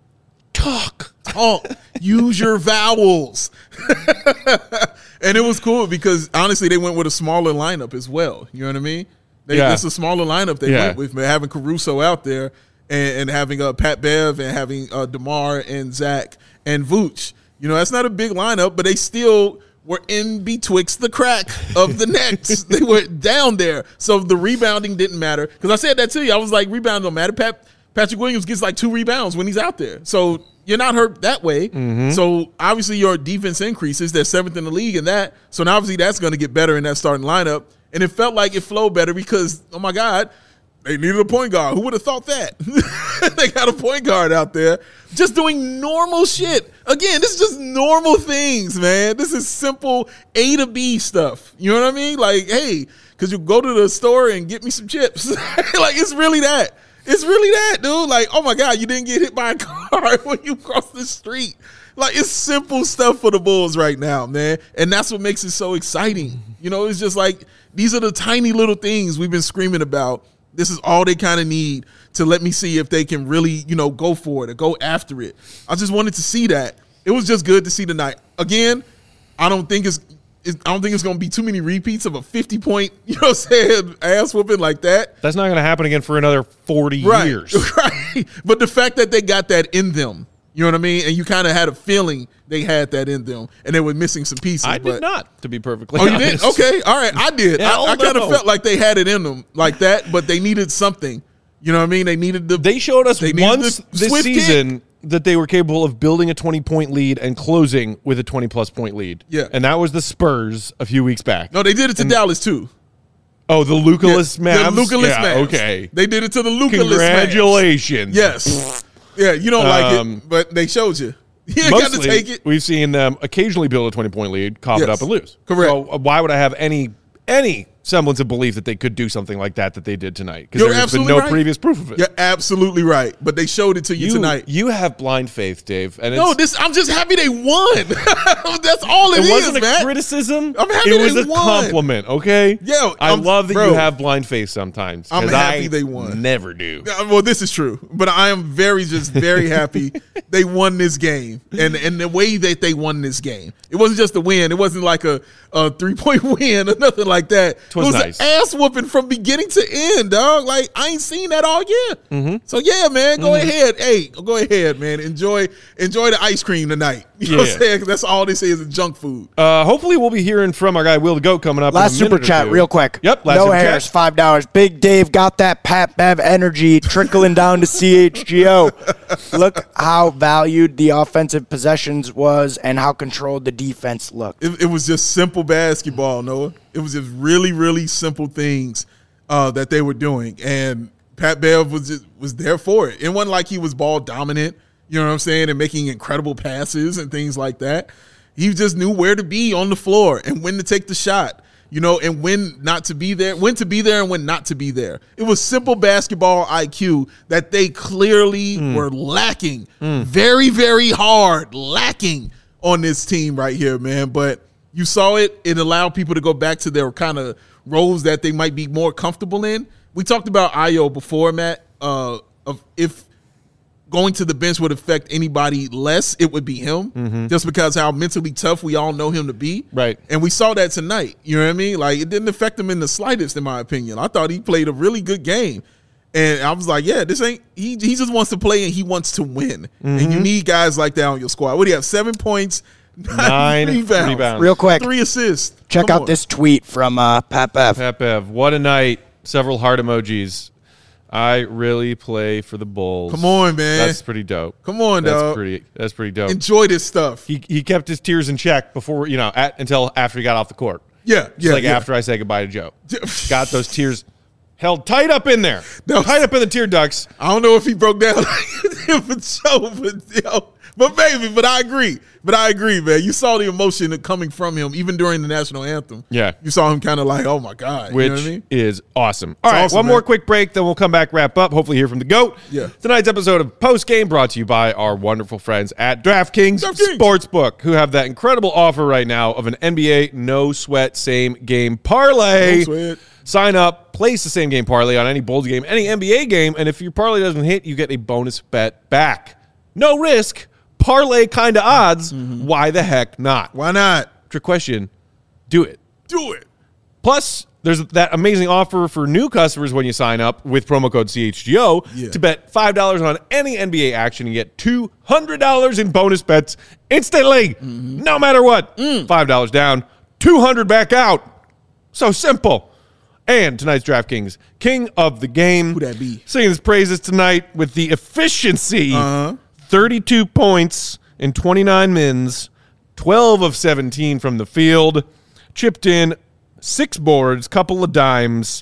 Talk. Talk. Use your vowels. And it was cool because honestly, they went with a smaller lineup as well. You know what I mean? They, Yeah. It's a smaller lineup they Yeah. went with, man, having Caruso out there and, and having uh, Pat Bev and having uh, DeMar and Zach and Vooch. You know, that's not a big lineup, but they still were in betwixt the crack of the Nets. They were down there. So the rebounding didn't matter. Because I said that to you. I was like, rebound don't matter. Pat, Patrick Williams gets like two rebounds when he's out there. So you're not hurt that way. Mm-hmm. So obviously your defense increases. They're seventh in the league in that. So now obviously that's going to get better in that starting lineup. And it felt like it flowed better because, oh my God, they needed a point guard. Who would have thought that? They got a point guard out there just doing normal shit. Again, this is just normal things, man. This is simple A to B stuff. You know what I mean? Like, hey, because you go to the store and get me some chips. Like, it's really that. It's really that, dude. Like, oh my God, you didn't get hit by a car when you cross the street. Like, it's simple stuff for the Bulls right now, man. And that's what makes it so exciting. You know, it's just like, these are the tiny little things we've been screaming about. This is all they kind of need to let me see if they can really, you know, go for it or go after it. I just wanted to see that. It was just good to see tonight. Again, I don't think it's, it's I don't think it's going to be too many repeats of a fifty point, you know what I'm saying, ass whooping like that. That's not going to happen again for another forty right. years. Right. But the fact that they got that in them, you know what I mean? And you kind of had a feeling they had that in them, and they were missing some pieces. I but, did not, to be perfectly oh, honest. you did? Okay. All right. I did. Hell I, I kind of no. felt like they had it in them like that, but they needed something. You know what I mean? They needed the. They showed us they needed once the this swift season kick. that they were capable of building a twenty-point lead and closing with a twenty-plus point lead. Yeah. And that was the Spurs a few weeks back. No, they did it to and, Dallas, too. Oh, the Luca-less Yeah, Mavs? The Luca-less yeah, Mavs. okay. They did it to the Luca-less Congratulations. Mavs. Yes. Yeah, you don't like Um, it, but they showed you. You ain't got to Mostly, take it. we've seen them occasionally build a twenty-point lead, cough it Yes. up, and lose. Correct. So uh, why would I have any any semblance of belief that they could do something like that that they did tonight? Because You're there's been absolutely no right. previous proof of it. You're absolutely right, but they showed it to you, You, tonight. you have blind faith, Dave. And No, it's, this. I'm just happy they won. That's all it, it is, wasn't a man. criticism. I'm happy it was they a won. compliment, okay? Yeah, I I'm- love that bro. you have blind faith sometimes. I'm 'cause happy I they won. Never do. Uh, Well, this is true, but I am very, just very happy they won this game, and and the way that they won this game, it wasn't just a win. It wasn't like a, a three point win or nothing like that. It was was nice. an ass whooping from beginning to end, dog. Like I ain't seen that all year. Mm-hmm. So yeah, man, go ahead. Hey, go ahead, man. Enjoy enjoy the ice cream tonight. You know what Yeah. I'm saying? 'Cause that's all they say is junk food. Uh, hopefully, we'll be hearing from our guy Will the Goat coming up. Last in a super minute or chat, two. real quick. Yep. Last no super hairs, chat. five dollars. Big Dave got that Pat Bev energy trickling down to C H G O. Look how valued the offensive possessions was and how controlled the defense looked. It, it was just simple basketball, Noah. It was just really, really simple things uh, that they were doing, and Pat Bev was just, was there for it. It wasn't like he was ball dominant, you know what I'm saying, and making incredible passes and things like that. He just knew where to be on the floor and when to take the shot, you know, and when not to be there, when to be there and when not to be there. It was simple basketball I Q that they clearly Mm. were lacking, very, very hard lacking on this team right here, man. But you saw it. It allowed people to go back to their kind of roles that they might be more comfortable in. We talked about Ayo before, Matt, uh, of if going to the bench would affect anybody less, it would be him, Mm-hmm. just because how mentally tough we all know him to be. Right. And we saw that tonight. You know what I mean? Like, it didn't affect him in the slightest, in my opinion. I thought he played a really good game. And I was like, yeah, this ain't – he he just wants to play and he wants to win. And Mm-hmm. you need guys like that on your squad. What do you have, seven points, nine, Nine rebounds, rebounds. Real quick, three assists. check Come out on. this tweet from uh, Pat Bev. Pat Bev, what a night. Several heart emojis. I really play for the Bulls. Come on, man. That's pretty dope. Come on, That's dog. pretty. That's pretty dope. Enjoy this stuff. he he kept his tears in check before you know at, until after he got off the court. Yeah, Just yeah, like yeah. after I say goodbye to Joe, got those tears held tight up in there, No. tight up in the tear ducts. I don't know if he broke down for Joe, but yo, but maybe. But I agree. But I agree, man. You saw the emotion coming from him, even during the national anthem. Yeah. you saw him kind of like, oh my god, Which you know what I mean? is awesome. All right, awesome, one man. more quick break, then we'll come back, wrap up, hopefully hear from the GOAT. Yeah. Tonight's episode of Post Game brought to you by our wonderful friends at DraftKings, DraftKings. Sportsbook, who have that incredible offer right now of an N B A no sweat same game parlay. No sweat. Sign up, place the same game parlay on any Bulls game, any N B A game, and if your parlay doesn't hit, you get a bonus bet back. No risk, parlay kind of odds. Mm-hmm. Why the heck not? Why not Trick question, do it. do it? Plus, there's that amazing offer for new customers when you sign up with promo code C H G O Yeah. to bet five dollars on any N B A action and get two hundred dollars in bonus bets instantly, Mm-hmm. no matter what. Mm. five dollars down, two hundred dollars back out. So simple. And tonight's DraftKings King of the Game. Who that be? Singing his praises tonight with the efficiency. Uh-huh. thirty-two points in twenty-nine mins, twelve of seventeen from the field, chipped in six boards, couple of dimes,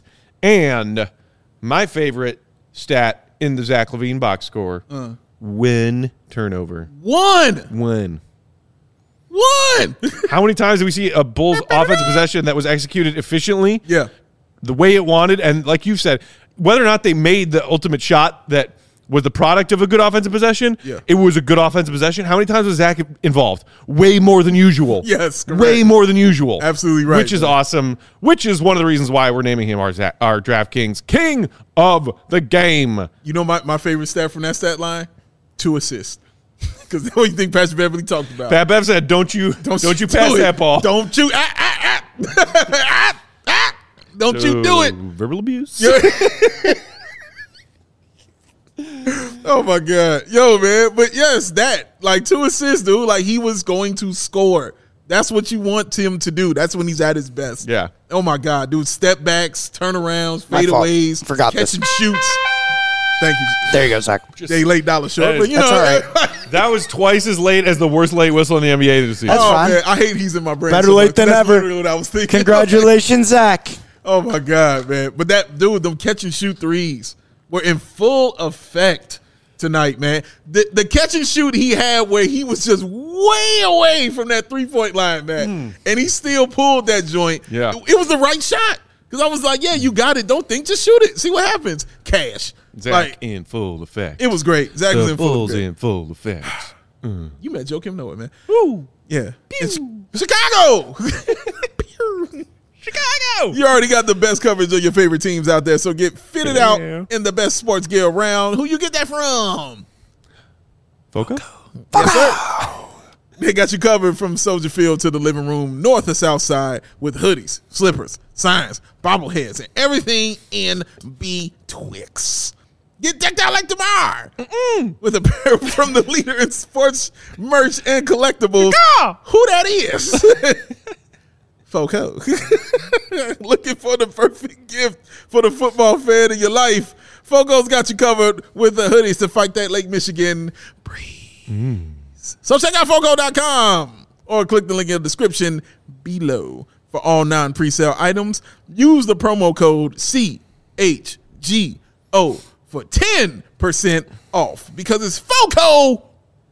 and my favorite stat in the Zach LaVine box score, Uh. win turnover. One, Win. one. How many times do we see a Bulls offensive possession that was executed efficiently? Yeah, The way it wanted, and like you said, whether or not they made the ultimate shot that was the product of a good offensive possession, Yeah. it was a good offensive possession. How many times was Zach involved? Way more than usual. Yes, correct. way more than usual. Absolutely right, Which is man. awesome. Which is one of the reasons why we're naming him our Zach, our DraftKings King of the Game. you know my, my favorite stat from that stat line? Two assists. Because that's what you think Patrick Beverly talked about. Pat Bev said, "Don't you, don't, don't you pass do that ball? Don't you, ah, ah, ah, ah, ah, don't so, you do it? Verbal abuse." Oh my God, yo, man! But yes, that like two assists, dude. Like he was going to score. That's what you want him to do. That's when he's at his best. Yeah. Oh my God, dude! Step backs, turnarounds, My fault. fadeaways, Forgot catch this. and shoots. Thank you. There you go, Zach. They late dollar short, That but is- you know that's all right. That was twice as late as the worst late whistle in the N B A this season. That's oh fine. man, I hate he's in my brain. Better so late much. than That's ever. literally what I was thinking. Congratulations, Zach. Oh my God, man! But that dude, them catch and shoot threes were in full effect tonight, man. The the catch and shoot he had where he was just way away from that three point line, man, and he still pulled that joint. Yeah. It was the right shot because I was like, yeah, you got it. Don't think, just shoot it. See what happens. Cash. Zach Like in full effect. it was great. Zach was the in full Bulls effect. in full effect. You met Joakim Noah, man. Woo. Yeah. It's Chicago. Chicago. You already got the best coverage of your favorite teams out there, so get fitted Yeah. out in the best sports gear around. Who you get that from? Foco? Yes, sir. They got you covered from Soldier Field to the living room, north or south side, with hoodies, slippers, signs, bobbleheads, and everything in betwixt. Get decked out like tomorrow with a pair from the leader in sports merch and collectibles. Who that is? Foco. Looking for the perfect gift for the football fan in your life. Foco's got you covered with the hoodies to fight that Lake Michigan breeze. Mm. So check out Foco dot com or click the link in the description below for all non-presale items. Use the promo code C H G O for ten percent off because it's Foco.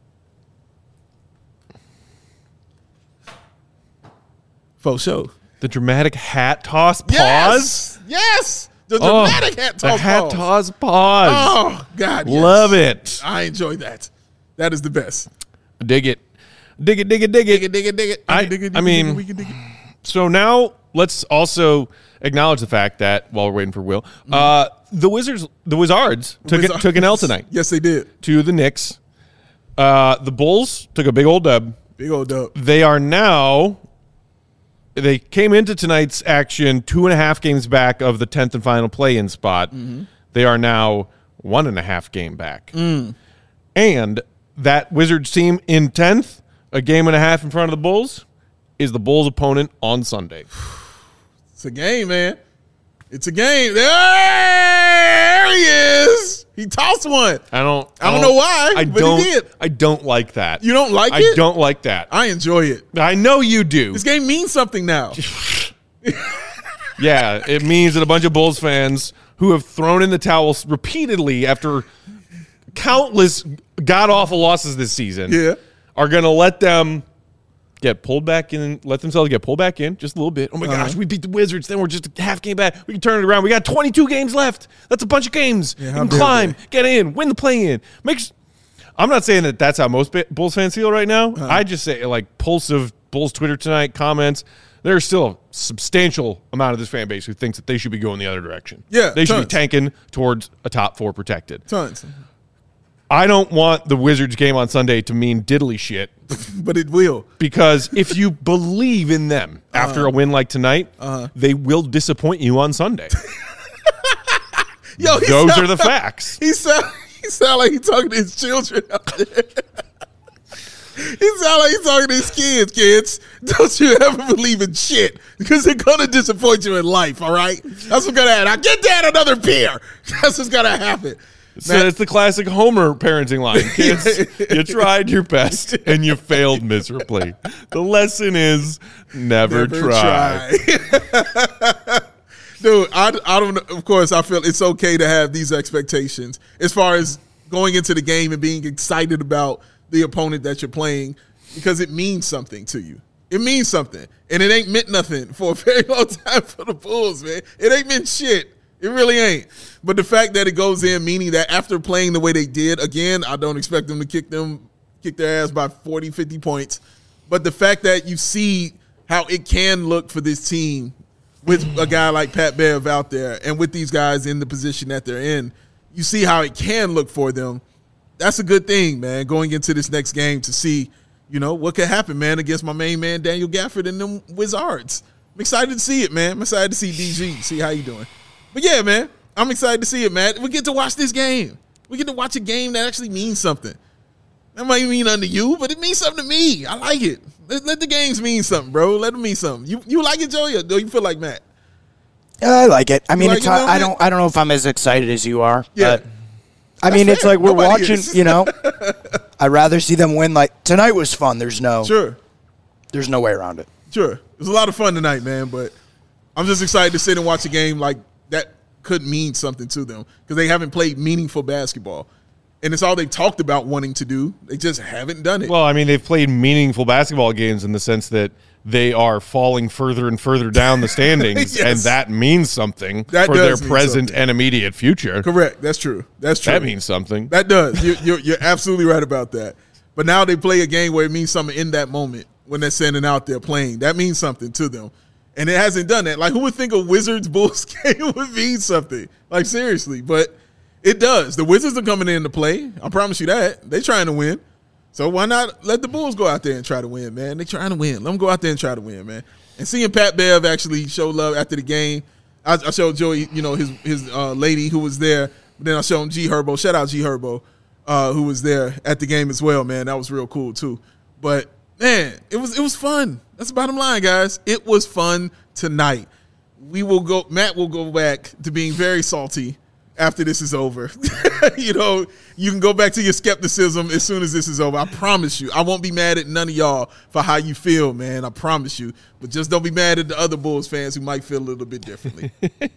Faux show. The dramatic hat toss pause. Yes. Yes. The Oh, dramatic hat toss. The hat pause. toss pause. Oh, God. Yes. Love it. I enjoy that. That is the best. Dig it. Dig it, dig it, dig Dig it. it, dig it, dig it. I- dig it, dig I it, mean- dig it, we can dig it. So now let's also acknowledge the fact that while we're waiting for Will, uh, the Wizards, the Wizards took it, took an L tonight Yes, they did. to the Knicks. Uh, the Bulls took a big old dub. Big old dub. They are now. They came into tonight's action two and a half games back of the tenth and final play-in spot. Mm-hmm. They are now one and a half game back. Mm. And that Wizards team in tenth, a game and a half in front of the Bulls, is the Bulls' opponent on Sunday. It's a game, man. It's a game. There he is. He tossed one. I don't. I don't know why, I but he don't. did. I don't like that. You don't like I it? don't like that. I enjoy it. I know you do. This game means something now. Yeah, it means that a bunch of Bulls fans who have thrown in the towels repeatedly after countless god awful losses this season, Yeah. are going to let them get pulled back in, let themselves get pulled back in just a little bit. Oh my Uh-huh. gosh, we beat the Wizards, then we're just a half game back. We can turn it around. We got twenty-two games left. That's a bunch of games. Yeah, you how can dare climb, they. get in, win the play-in. Makes. I'm not saying that that's how most Ba- Bulls fans feel right now. Uh-huh. I just say, like, pulse of Bulls Twitter tonight, comments. There's still a substantial amount of this fan base who thinks that they should be going the other direction. Yeah, They should be tons. tanking towards a top four protected. Tons. I don't want the Wizards game on Sunday to mean diddly shit, But it will. because if you believe in them after a win like tonight, Uh-huh. they will disappoint you on Sunday. Yo, he Those sound- are the facts. He sound, he sound like he's talking to his children out there. He sound like he's talking to his kids. Kids, don't you ever believe in shit, because they're gonna disappoint you in life. All right, that's what's gonna happen. Now get dad another beer. That's what's gonna happen. So it's the classic Homer parenting line. Kids, you tried your best and you failed miserably. The lesson is never, Never try. try. Dude, I, I don't know. Of course, I feel it's okay to have these expectations as far as going into the game and being excited about the opponent that you're playing, because it means something to you. It means something. And it ain't meant nothing for a very long time for the Bulls, man. It ain't meant shit. It really ain't. But the fact that it goes in, meaning that after playing the way they did, again, I don't expect them to kick them, kick their ass by forty, fifty points. But the fact that you see how it can look for this team with a guy like Pat Bev out there and with these guys in the position that they're in, you see how it can look for them. that's a good thing, man, going into this next game to see, you know, what could happen, man, against my main man, Daniel Gafford and them Wizards. I'm excited to see it, man. I'm excited to see D G, see how you doing. But, yeah, man, I'm excited to see it, man. We get to watch this game. We get to watch a game that actually means something. That might mean nothing to you, but it means something to me. I like it. Let, let the games mean something, bro. Let them mean something. You you like it, Joey, or do you feel like Matt? I like it. I mean, like it's it, I, I man? don't I don't know if I'm as excited as you are. Yeah. But, I mean, That's it's fair. like we're Nobody watching, is. you know. I'd rather see them win. Like, tonight was fun. There's no Sure. there's no way around it. Sure. It was a lot of fun tonight, man, but I'm just excited to sit and watch a game like that could mean something to them because they haven't played meaningful basketball. And it's all they've talked about wanting to do. They just haven't done it. Well, I mean, they've played meaningful basketball games in the sense that they are falling further and further down the standings, Yes. and that means something That for their does mean present something. and immediate future. Correct. That's true. That's true. That means something. That does. You're, you're, you're absolutely right about that. But now they play a game where it means something in that moment when they're standing out there playing. That means something to them. And it hasn't done that. Like, who would think a Wizards Bulls game would mean something? Like, seriously. But it does. The Wizards are coming in to play. I promise you that. They're trying to win. So why not let the Bulls go out there and try to win, man? They're trying to win. Let them go out there and try to win, man. And seeing Pat Bev actually show love after the game, I, I showed Joey, you know, his his uh, lady who was there. But then I showed him G Herbo. Shout out G Herbo, uh, who was there at the game as well, man. That was real cool too. But man, it was it was fun. That's the bottom line, guys. It was fun tonight. We will go. Matt will go back to being very salty after this is over. You know, you can go back to your skepticism as soon as this is over. I promise you. I won't be mad at none of y'all for how you feel, man. I promise you. But just don't be mad at the other Bulls fans who might feel a little bit differently.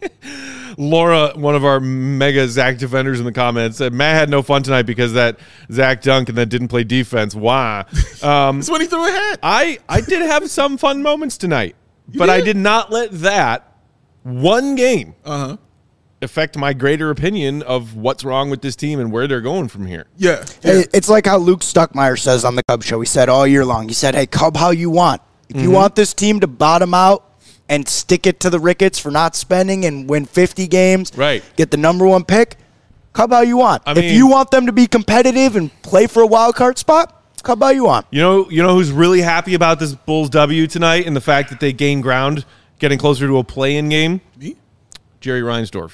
Laura, one of our mega Zach defenders in the comments, said Matt had no fun tonight because that Zach dunk and that didn't play defense. Why? Um, That's when he threw a hat. I, I did have some fun moments tonight, but I did? did not let that one game Uh-huh. affect my greater opinion of what's wrong with this team and where they're going from here. Yeah. Hey, yeah. it's like how Luke Stuckmeyer says on the Cub Show. He said all year long, he said, hey, Cub how you want. If you want this team to bottom out and stick it to the Ricketts for not spending and win fifty games, Right. get the number one pick, Cub how you want. I if mean- you want them to be competitive and play for a wild card spot, Cub how you want. You know, you know who's really happy about this Bulls W tonight and the fact that they gained ground, getting closer to a play-in game? Me? Jerry Reinsdorf.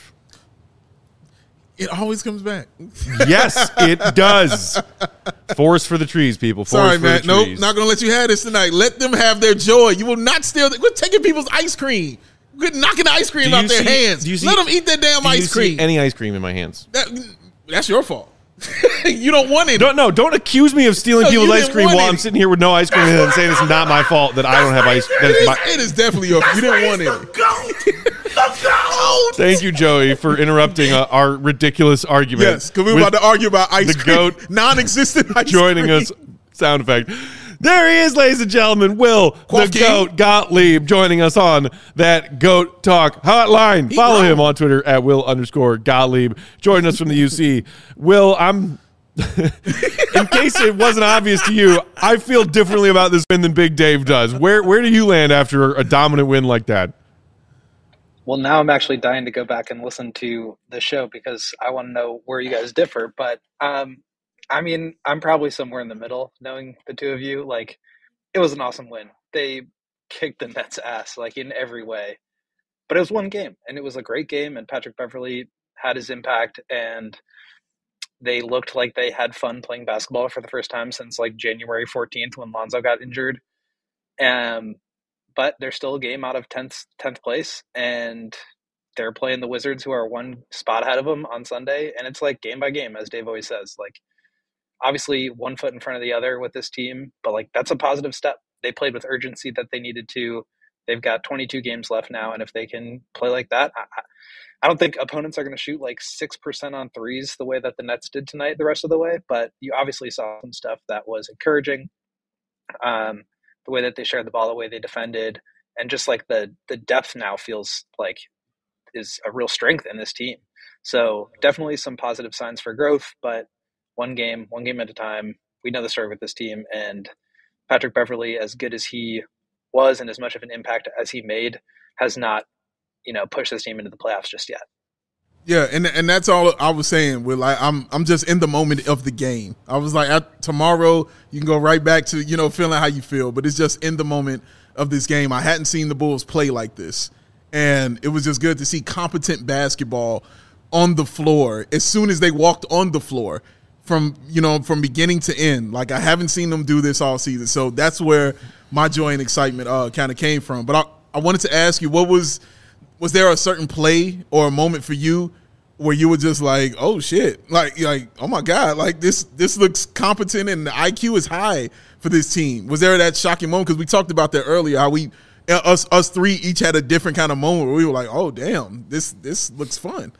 It always comes back. Yes, it does. Forest for the trees, people. Forest Sorry, for Matt. the Nope, trees. not going to let you have this tonight. Let them have their joy. You will not steal. We're taking people's ice cream. We're knocking the ice cream Do out you their see- hands. do you see- Let them eat that damn Do you ice see cream. any ice cream in my hands? That, that's your fault. You don't want any. Don't no, don't accuse me of stealing No, people's you ice didn't cream want while I'm any. sitting here with no ice cream and then saying it's not my fault that I don't have ice. That It is is, my, it is definitely your fault. You didn't want any. thank you, Joey, for interrupting uh, our ridiculous argument. Yes, because we were with about to argue about ice the cream. goat Non-existent ice joining cream. us. Sound effect. There he is, ladies and gentlemen. Will Quaff the King. Goat Gottlieb joining us on that Goat Talk hotline. Follow wrong. him on Twitter at Will underscore Gottlieb. Joining us from the U C. Will, I'm. In case it wasn't obvious to you, I feel differently about this win than Big Dave does. Where where do you land after a dominant win like that? Well, now I'm actually dying to go back and listen to the show because I want to know where you guys differ. But um, I mean, I'm probably somewhere in the middle, knowing the two of you. Like, it was an awesome win. They kicked the Nets' ass, like, in every way. But it was one game, and it was a great game, and Patrick Beverley had his impact, and they looked like they had fun playing basketball for the first time since, like, January fourteenth when Lonzo got injured. Um, but they're still a game out of tenth, tenth place, and they're playing the Wizards, who are one spot ahead of them on Sunday, and it's, like, game by game, as Dave always says. Like, obviously one foot in front of the other with this team, but, like, that's a positive step. They played with urgency that they needed to. They've got twenty-two games left now, and if they can play like that, I, I don't think opponents are going to shoot like six percent on threes the way that the Nets did tonight the rest of the way, but you obviously saw some stuff that was encouraging. Um, the way that they shared the ball, the way they defended, and just like the the depth now feels like is a real strength in this team. So definitely some positive signs for growth, but one game, one game at a time. We know the story with this team, and Patrick Beverley, as good as he was and as much of an impact as he made, has not, you know, pushed this team into the playoffs just yet. Yeah, and and that's all I was saying. With like, I'm I'm just in the moment of the game. I was like, at, tomorrow you can go right back to you know feeling how you feel, but it's just in the moment of this game. I hadn't seen the Bulls play like this, and it was just good to see competent basketball on the floor as soon as they walked on the floor, from you know from beginning to end. Like, I haven't seen them do this all season, so that's where my joy and excitement uh, kind of came from. But I I wanted to ask you, what was was there a certain play or a moment for you where you were just like, oh shit, like, like, oh my God, like this, this looks competent and the I Q is high for this team? Was there that shocking moment? Because we talked about that earlier, how we, us, us three each had a different kind of moment where we were like, oh damn, this, this looks fun.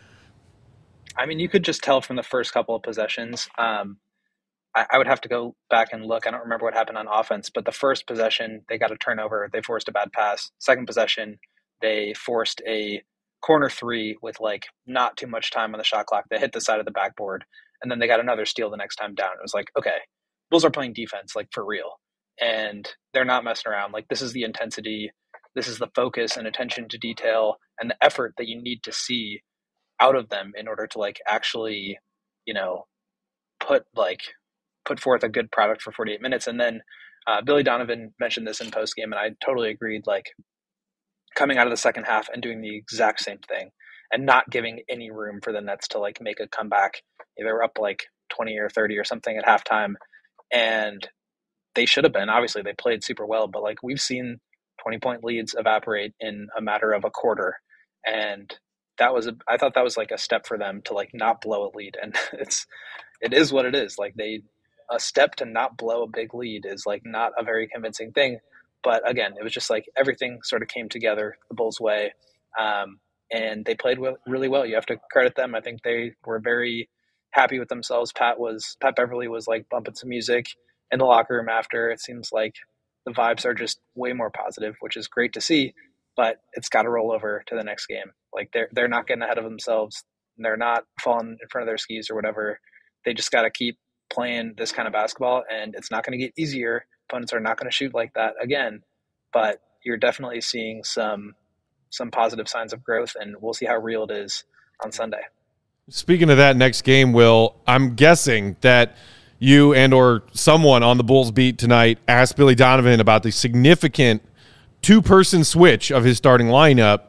I mean, you could just tell from the first couple of possessions. Um, I, I would have to go back and look. I don't remember what happened on offense, but the first possession, they got a turnover. They forced a bad pass. Second possession, they forced a corner three with like not too much time on the shot clock. They hit the side of the backboard, and then they got another steal the next time down. It was like, okay, Bulls are playing defense like for real, and they're not messing around. Like, this is the intensity, this is the focus and attention to detail and the effort that you need to see out of them in order to like actually, you know, put like put forth a good product for forty-eight minutes. And then uh, Billy Donovan mentioned this in post game, and I totally agreed. Like, coming out of the second half and doing the exact same thing and not giving any room for the Nets to like make a comeback. They were up like twenty or thirty or something at halftime, and they should have been. Obviously they played super well, but like, we've seen twenty point leads evaporate in a matter of a quarter. And that was, a, I thought that was like a step for them to like not blow a lead. And it's, it is what it is. Like, they, a step to not blow a big lead is like not a very convincing thing. But again, it was just like everything sort of came together the Bulls' way, um, and they played well, really well. You have to credit them. I think they were very happy with themselves. Pat was Pat Beverly was like bumping some music in the locker room after. It seems like the vibes are just way more positive, which is great to see. But it's got to roll over to the next game. Like, they're they're not getting ahead of themselves. They're not falling in front of their skis or whatever. They just got to keep playing this kind of basketball, and it's not going to get easier. Opponents are not going to shoot like that again, but you're definitely seeing some some positive signs of growth, and we'll see how real it is on Sunday. Speaking of that next game, Will, I'm guessing that you and or someone on the Bulls beat tonight asked Billy Donovan about the significant two-person switch of his starting lineup,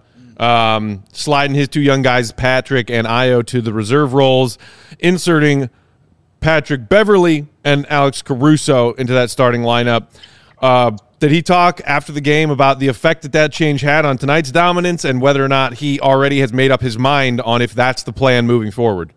um, sliding his two young guys, Patrick and Ayo, to the reserve roles, inserting Patrick Beverly and Alex Caruso into that starting lineup. Uh, did he talk after the game about the effect that that change had on tonight's dominance, and whether or not he already has made up his mind on if that's the plan moving forward?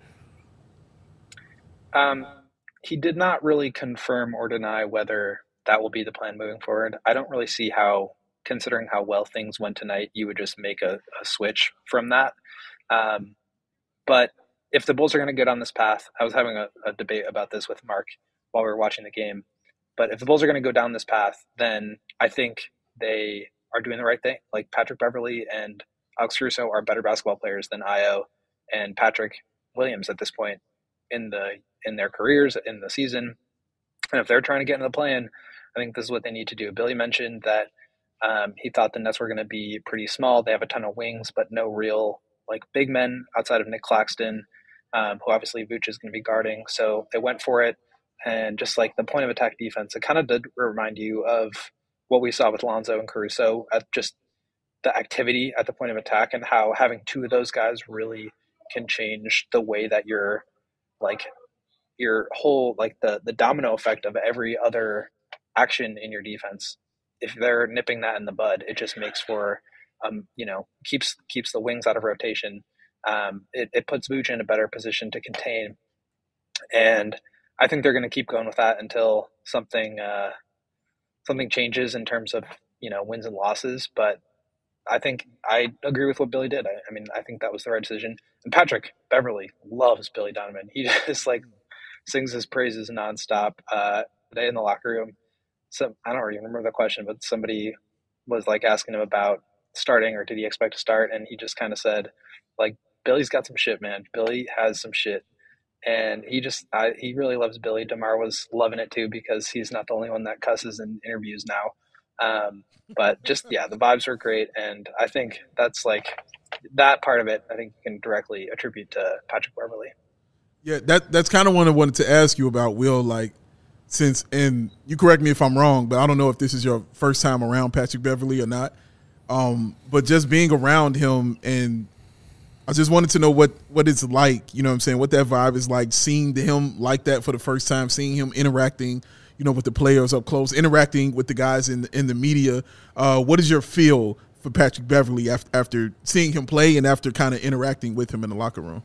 Um, he did not really confirm or deny whether that will be the plan moving forward. I don't really see how, considering how well things went tonight, you would just make a, a switch from that. Um, but if the Bulls are going to go down this path, I was having a, a debate about this with Mark while we were watching the game, but if the Bulls are going to go down this path, then I think they are doing the right thing. Like, Patrick Beverly and Alex Caruso are better basketball players than Ayo and Patrick Williams at this point in the in their careers, in the season. And if they're trying to get into the play-in, I think this is what they need to do. Billy mentioned that um, he thought the Nets were going to be pretty small. They have a ton of wings, but no real like big men outside of Nick Claxton, um, who obviously Vooch is going to be guarding. So they went for it. And just like the point of attack defense, it kind of did remind you of what we saw with Lonzo and Caruso at just the activity at the point of attack, and how having two of those guys really can change the way that you're like your whole, like the, the domino effect of every other action in your defense. If they're nipping that in the bud, it just makes for, um, you know, keeps, keeps the wings out of rotation. Um, it, it puts Vooch in a better position to contain. And I think they're going to keep going with that until something, uh, something changes in terms of, you know, wins and losses. But I think I agree with what Billy did. I, I mean, I think that was the right decision. And Patrick Beverly loves Billy Donovan. He just like sings his praises nonstop. Uh, today in the locker room, so I don't even remember the question, but somebody was like asking him about starting or did he expect to start, and he just kind of said, like, Billy's got some shit, man. Billy has some shit. And he just, I, he really loves Billy. DeMar was loving it too, because he's not the only one that cusses in interviews now. Um, but just, yeah, the vibes are great. And I think that's like that part of it, I think you can directly attribute to Patrick Beverley. Yeah, that that's kind of what I wanted to ask you about, Will. Like, since, and you correct me if I'm wrong, but I don't know if this is your first time around Patrick Beverley or not. Um, but just being around him, and I just wanted to know what, what it's like, you know what I'm saying, what that vibe is like, seeing him like that for the first time, seeing him interacting, you know, with the players up close, interacting with the guys in, in the media. Uh, what is your feel for Patrick Beverley after, after seeing him play and after kind of interacting with him in the locker room?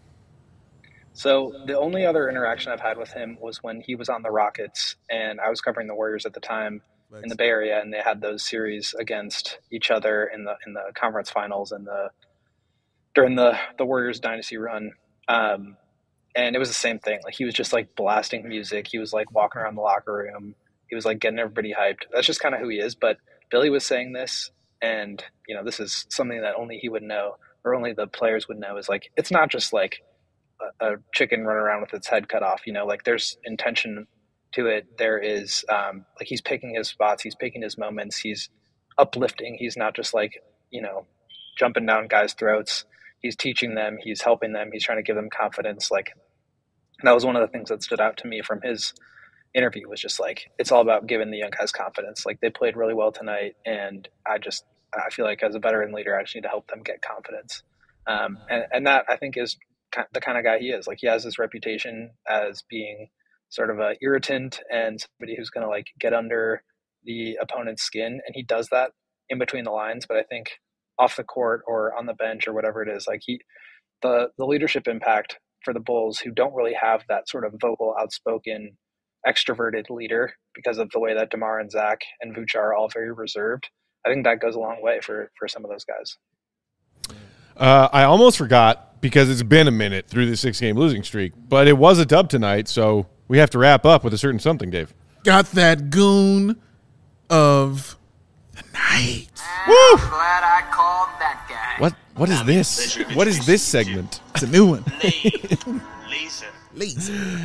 So the only other interaction I've had with him was when he was on the Rockets, and I was covering the Warriors at the time in the Bay Area, and they had those series against each other in the in the conference finals and the during the the Warriors dynasty run. Um, and it was the same thing. Like, he was just like blasting music. He was like walking around the locker room. He was like getting everybody hyped. That's just kind of who he is. But Billy was saying this, and you know, this is something that only he would know, or only the players would know, is like, it's not just like a, a chicken running around with its head cut off. You know, like, there's intention to it. There is um, like, he's picking his spots. He's picking his moments. He's uplifting. He's not just like, you know, jumping down guys' throats. He's teaching them. He's helping them. He's trying to give them confidence. Like, that was one of the things that stood out to me from his interview, was just like, it's all about giving the young guys confidence. Like, they played really well tonight, and I just, I feel like as a veteran leader, I just need to help them get confidence. Um, and, and that, I think, is the kind of guy he is. Like, he has this reputation as being sort of a irritant and somebody who's going to like get under the opponent's skin. And he does that in between the lines. But I think off the court or on the bench or whatever it is, like, he, the, the leadership impact for the Bulls, who don't really have that sort of vocal, outspoken, extroverted leader because of the way that DeMar and Zach and Vooch are all very reserved, I think that goes a long way for, for some of those guys. Uh, I almost forgot, because it's been a minute through the six-game losing streak, but it was a dub tonight, so we have to wrap up with a certain something, Dave. Got that goon of the night. Woo! I'm glad I called that guy. What? What is this? What is this segment? It's a new one. Lisa. Lisa.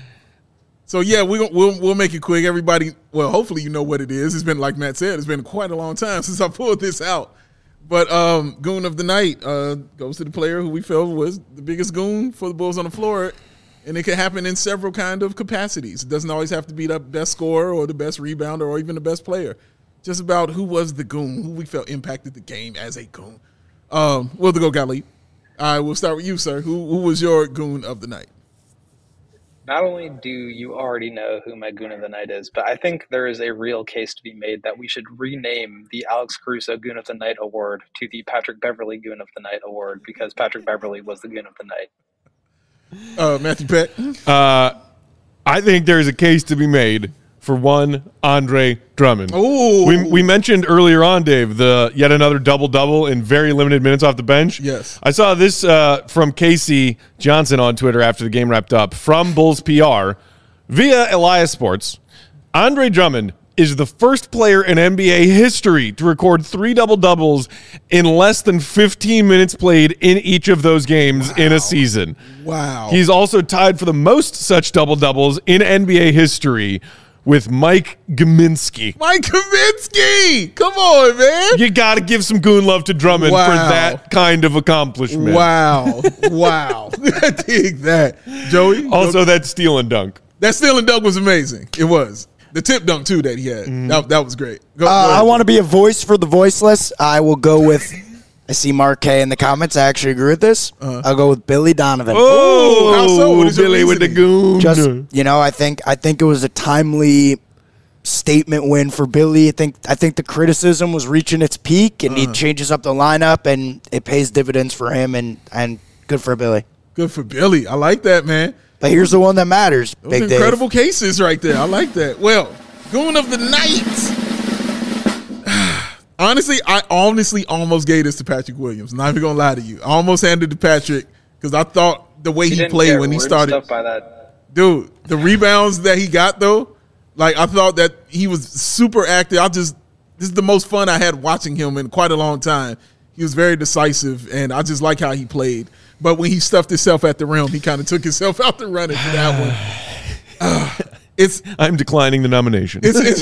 So, yeah, we, we'll we'll make it quick. Everybody, well, hopefully you know what it is. It's been, like Matt said, it's been quite a long time since I pulled this out. But um, goon of the night uh, goes to the player who we felt was the biggest goon for the Bulls on the floor. And it can happen in several kind of capacities. It doesn't always have to be the best scorer or the best rebounder or even the best player. Just about who was the goon, who we felt impacted the game as a goon. Um, we'll go, Galip. All right, we'll start with you, sir. Who, who was your goon of the night? Not only do you already know who my goon of the night is, but I think there is a real case to be made that we should rename the Alex Caruso Goon of the Night award to the Patrick Beverley Goon of the Night award, because Patrick Beverley was the goon of the night. Uh, Matthew Peck. Uh, I think there's a case to be made for one Andre Drummond. Ooh. We, we mentioned earlier on, Dave, the yet another double-double in very limited minutes off the bench. Yes. I saw this uh, from Casey Johnson on Twitter after the game wrapped up from Bulls P R via Elias Sports. Andre Drummond is the first player in N B A history to record three double-doubles in less than fifteen minutes played in each of those games wow. in a season. Wow. He's also tied for the most such double-doubles in N B A history with Mike Gminski. Mike Gminski! Come on, man. You got to give some goon love to Drummond wow. for that kind of accomplishment. Wow. Wow. I dig that. Joey? Also, that steal and dunk. That steal and dunk was amazing. It was. The tip dunk, too, that he had. Mm. That, that was great. Go, uh, go I want to be a voice for the voiceless. I will go with, I see Mark K in the comments. I actually agree with this. Uh-huh. I'll go with Billy Donovan. Oh, how so? What is Billy with the goon. Just, you know, I think I think it was a timely statement win for Billy. I think I think the criticism was reaching its peak, and uh-huh. he changes up the lineup, and it pays dividends for him, and, and good for Billy. Good for Billy. I like that, man. But here's the one that matters. Those Big incredible Dave. cases right there. I like that. Well, goon of the night. Honestly, I honestly almost gave this to Patrick Williams. Not even gonna lie to you. I almost handed it to Patrick because I thought the way he, he played when he started. Stuff by that. Dude, the rebounds that he got though, like I thought that he was super active. I just this is the most fun I had watching him in quite a long time. He was very decisive, and I just like how he played. But when he stuffed himself at the rim, he kind of took himself out the running for that one. Uh, It's I'm declining the nomination. It's, it's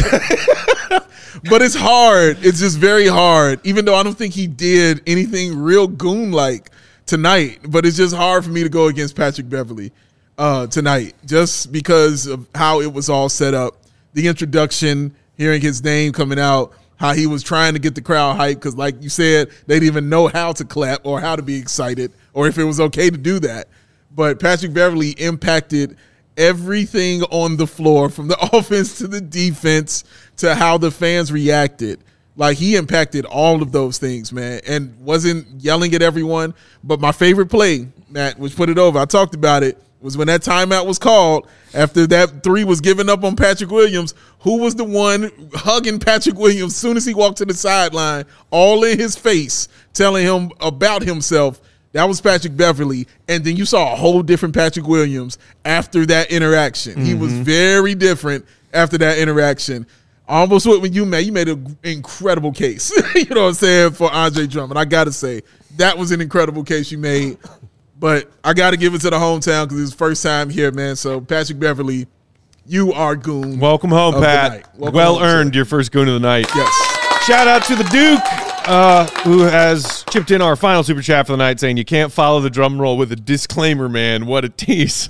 but it's hard. It's just very hard. Even though I don't think he did anything real goon-like tonight, but it's just hard for me to go against Patrick Beverley uh, tonight, just because of how it was all set up. The introduction, hearing his name coming out, how he was trying to get the crowd hyped, because like you said, they didn't even know how to clap or how to be excited or if it was okay to do that. But Patrick Beverley impacted everything on the floor, from the offense to the defense to how the fans reacted. Like, he impacted all of those things, man, and wasn't yelling at everyone. But my favorite play, Matt, which put it over, I talked about it, was when that timeout was called after that three was given up on Patrick Williams. Who was the one hugging Patrick Williams as soon as he walked to the sideline, all in his face, telling him about himself? That was Patrick Beverley. And then you saw a whole different Patrick Williams after that interaction. Mm-hmm. He was very different after that interaction. I almost went with you, man. You made an incredible case, you know what I'm saying, for Andre Drummond. I got to say, that was an incredible case you made. But I got to give it to the hometown because it's his first time here, man. So, Patrick Beverley, you are goon. Welcome home, Pat. Welcome well home, earned sir. Your first goon of the night. Yes. Shout out to the Duke, uh, who has chipped in our final super chat for the night, saying you can't follow the drum roll with a disclaimer, man. What a tease.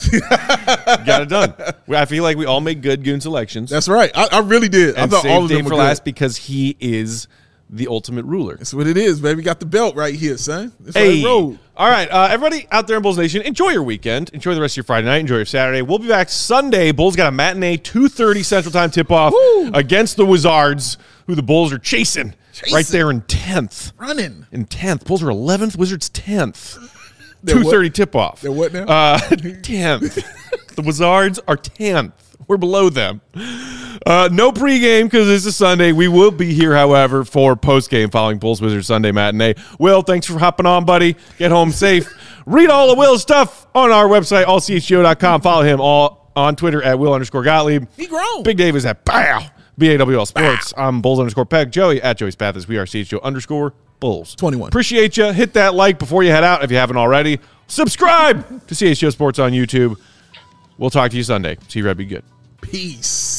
Got it done. I feel like we all made good goon selections. That's right. I, I really did. And I thought all of them Dave were for good. last because he is the ultimate ruler. That's what it is, baby. Got the belt right here, son. That's hey. right road. All right, uh, everybody out there in Bulls Nation, enjoy your weekend. Enjoy the rest of your Friday night. Enjoy your Saturday. We'll be back Sunday. Bulls got a matinee, two thirty Central Time tip-off Woo. against the Wizards, who the Bulls are chasing, chasing. right there in tenth. Running. In tenth. Bulls are eleventh, Wizards tenth. two thirty tip-off. They're what now? Uh, tenth. The Wizards are tenth. We're below them. Uh, no pregame because this is Sunday. We will be here, however, for postgame following Bulls Wizards Sunday matinee. Will, thanks for hopping on, buddy. Get home safe. Read all of Will's stuff on our website, all c h g o dot com. Follow him all on Twitter at Will underscore Gottlieb. He grown. Big Dave is at Bow, B A W L Sports. I'm Bulls underscore Peg. Joey at Joey's Pathis. We are C H G O underscore Bulls. twenty-one. Appreciate you. Hit that like before you head out if you haven't already. Subscribe to C H G O Sports on YouTube. We'll talk to you Sunday. See you, Red. Be good. Peace.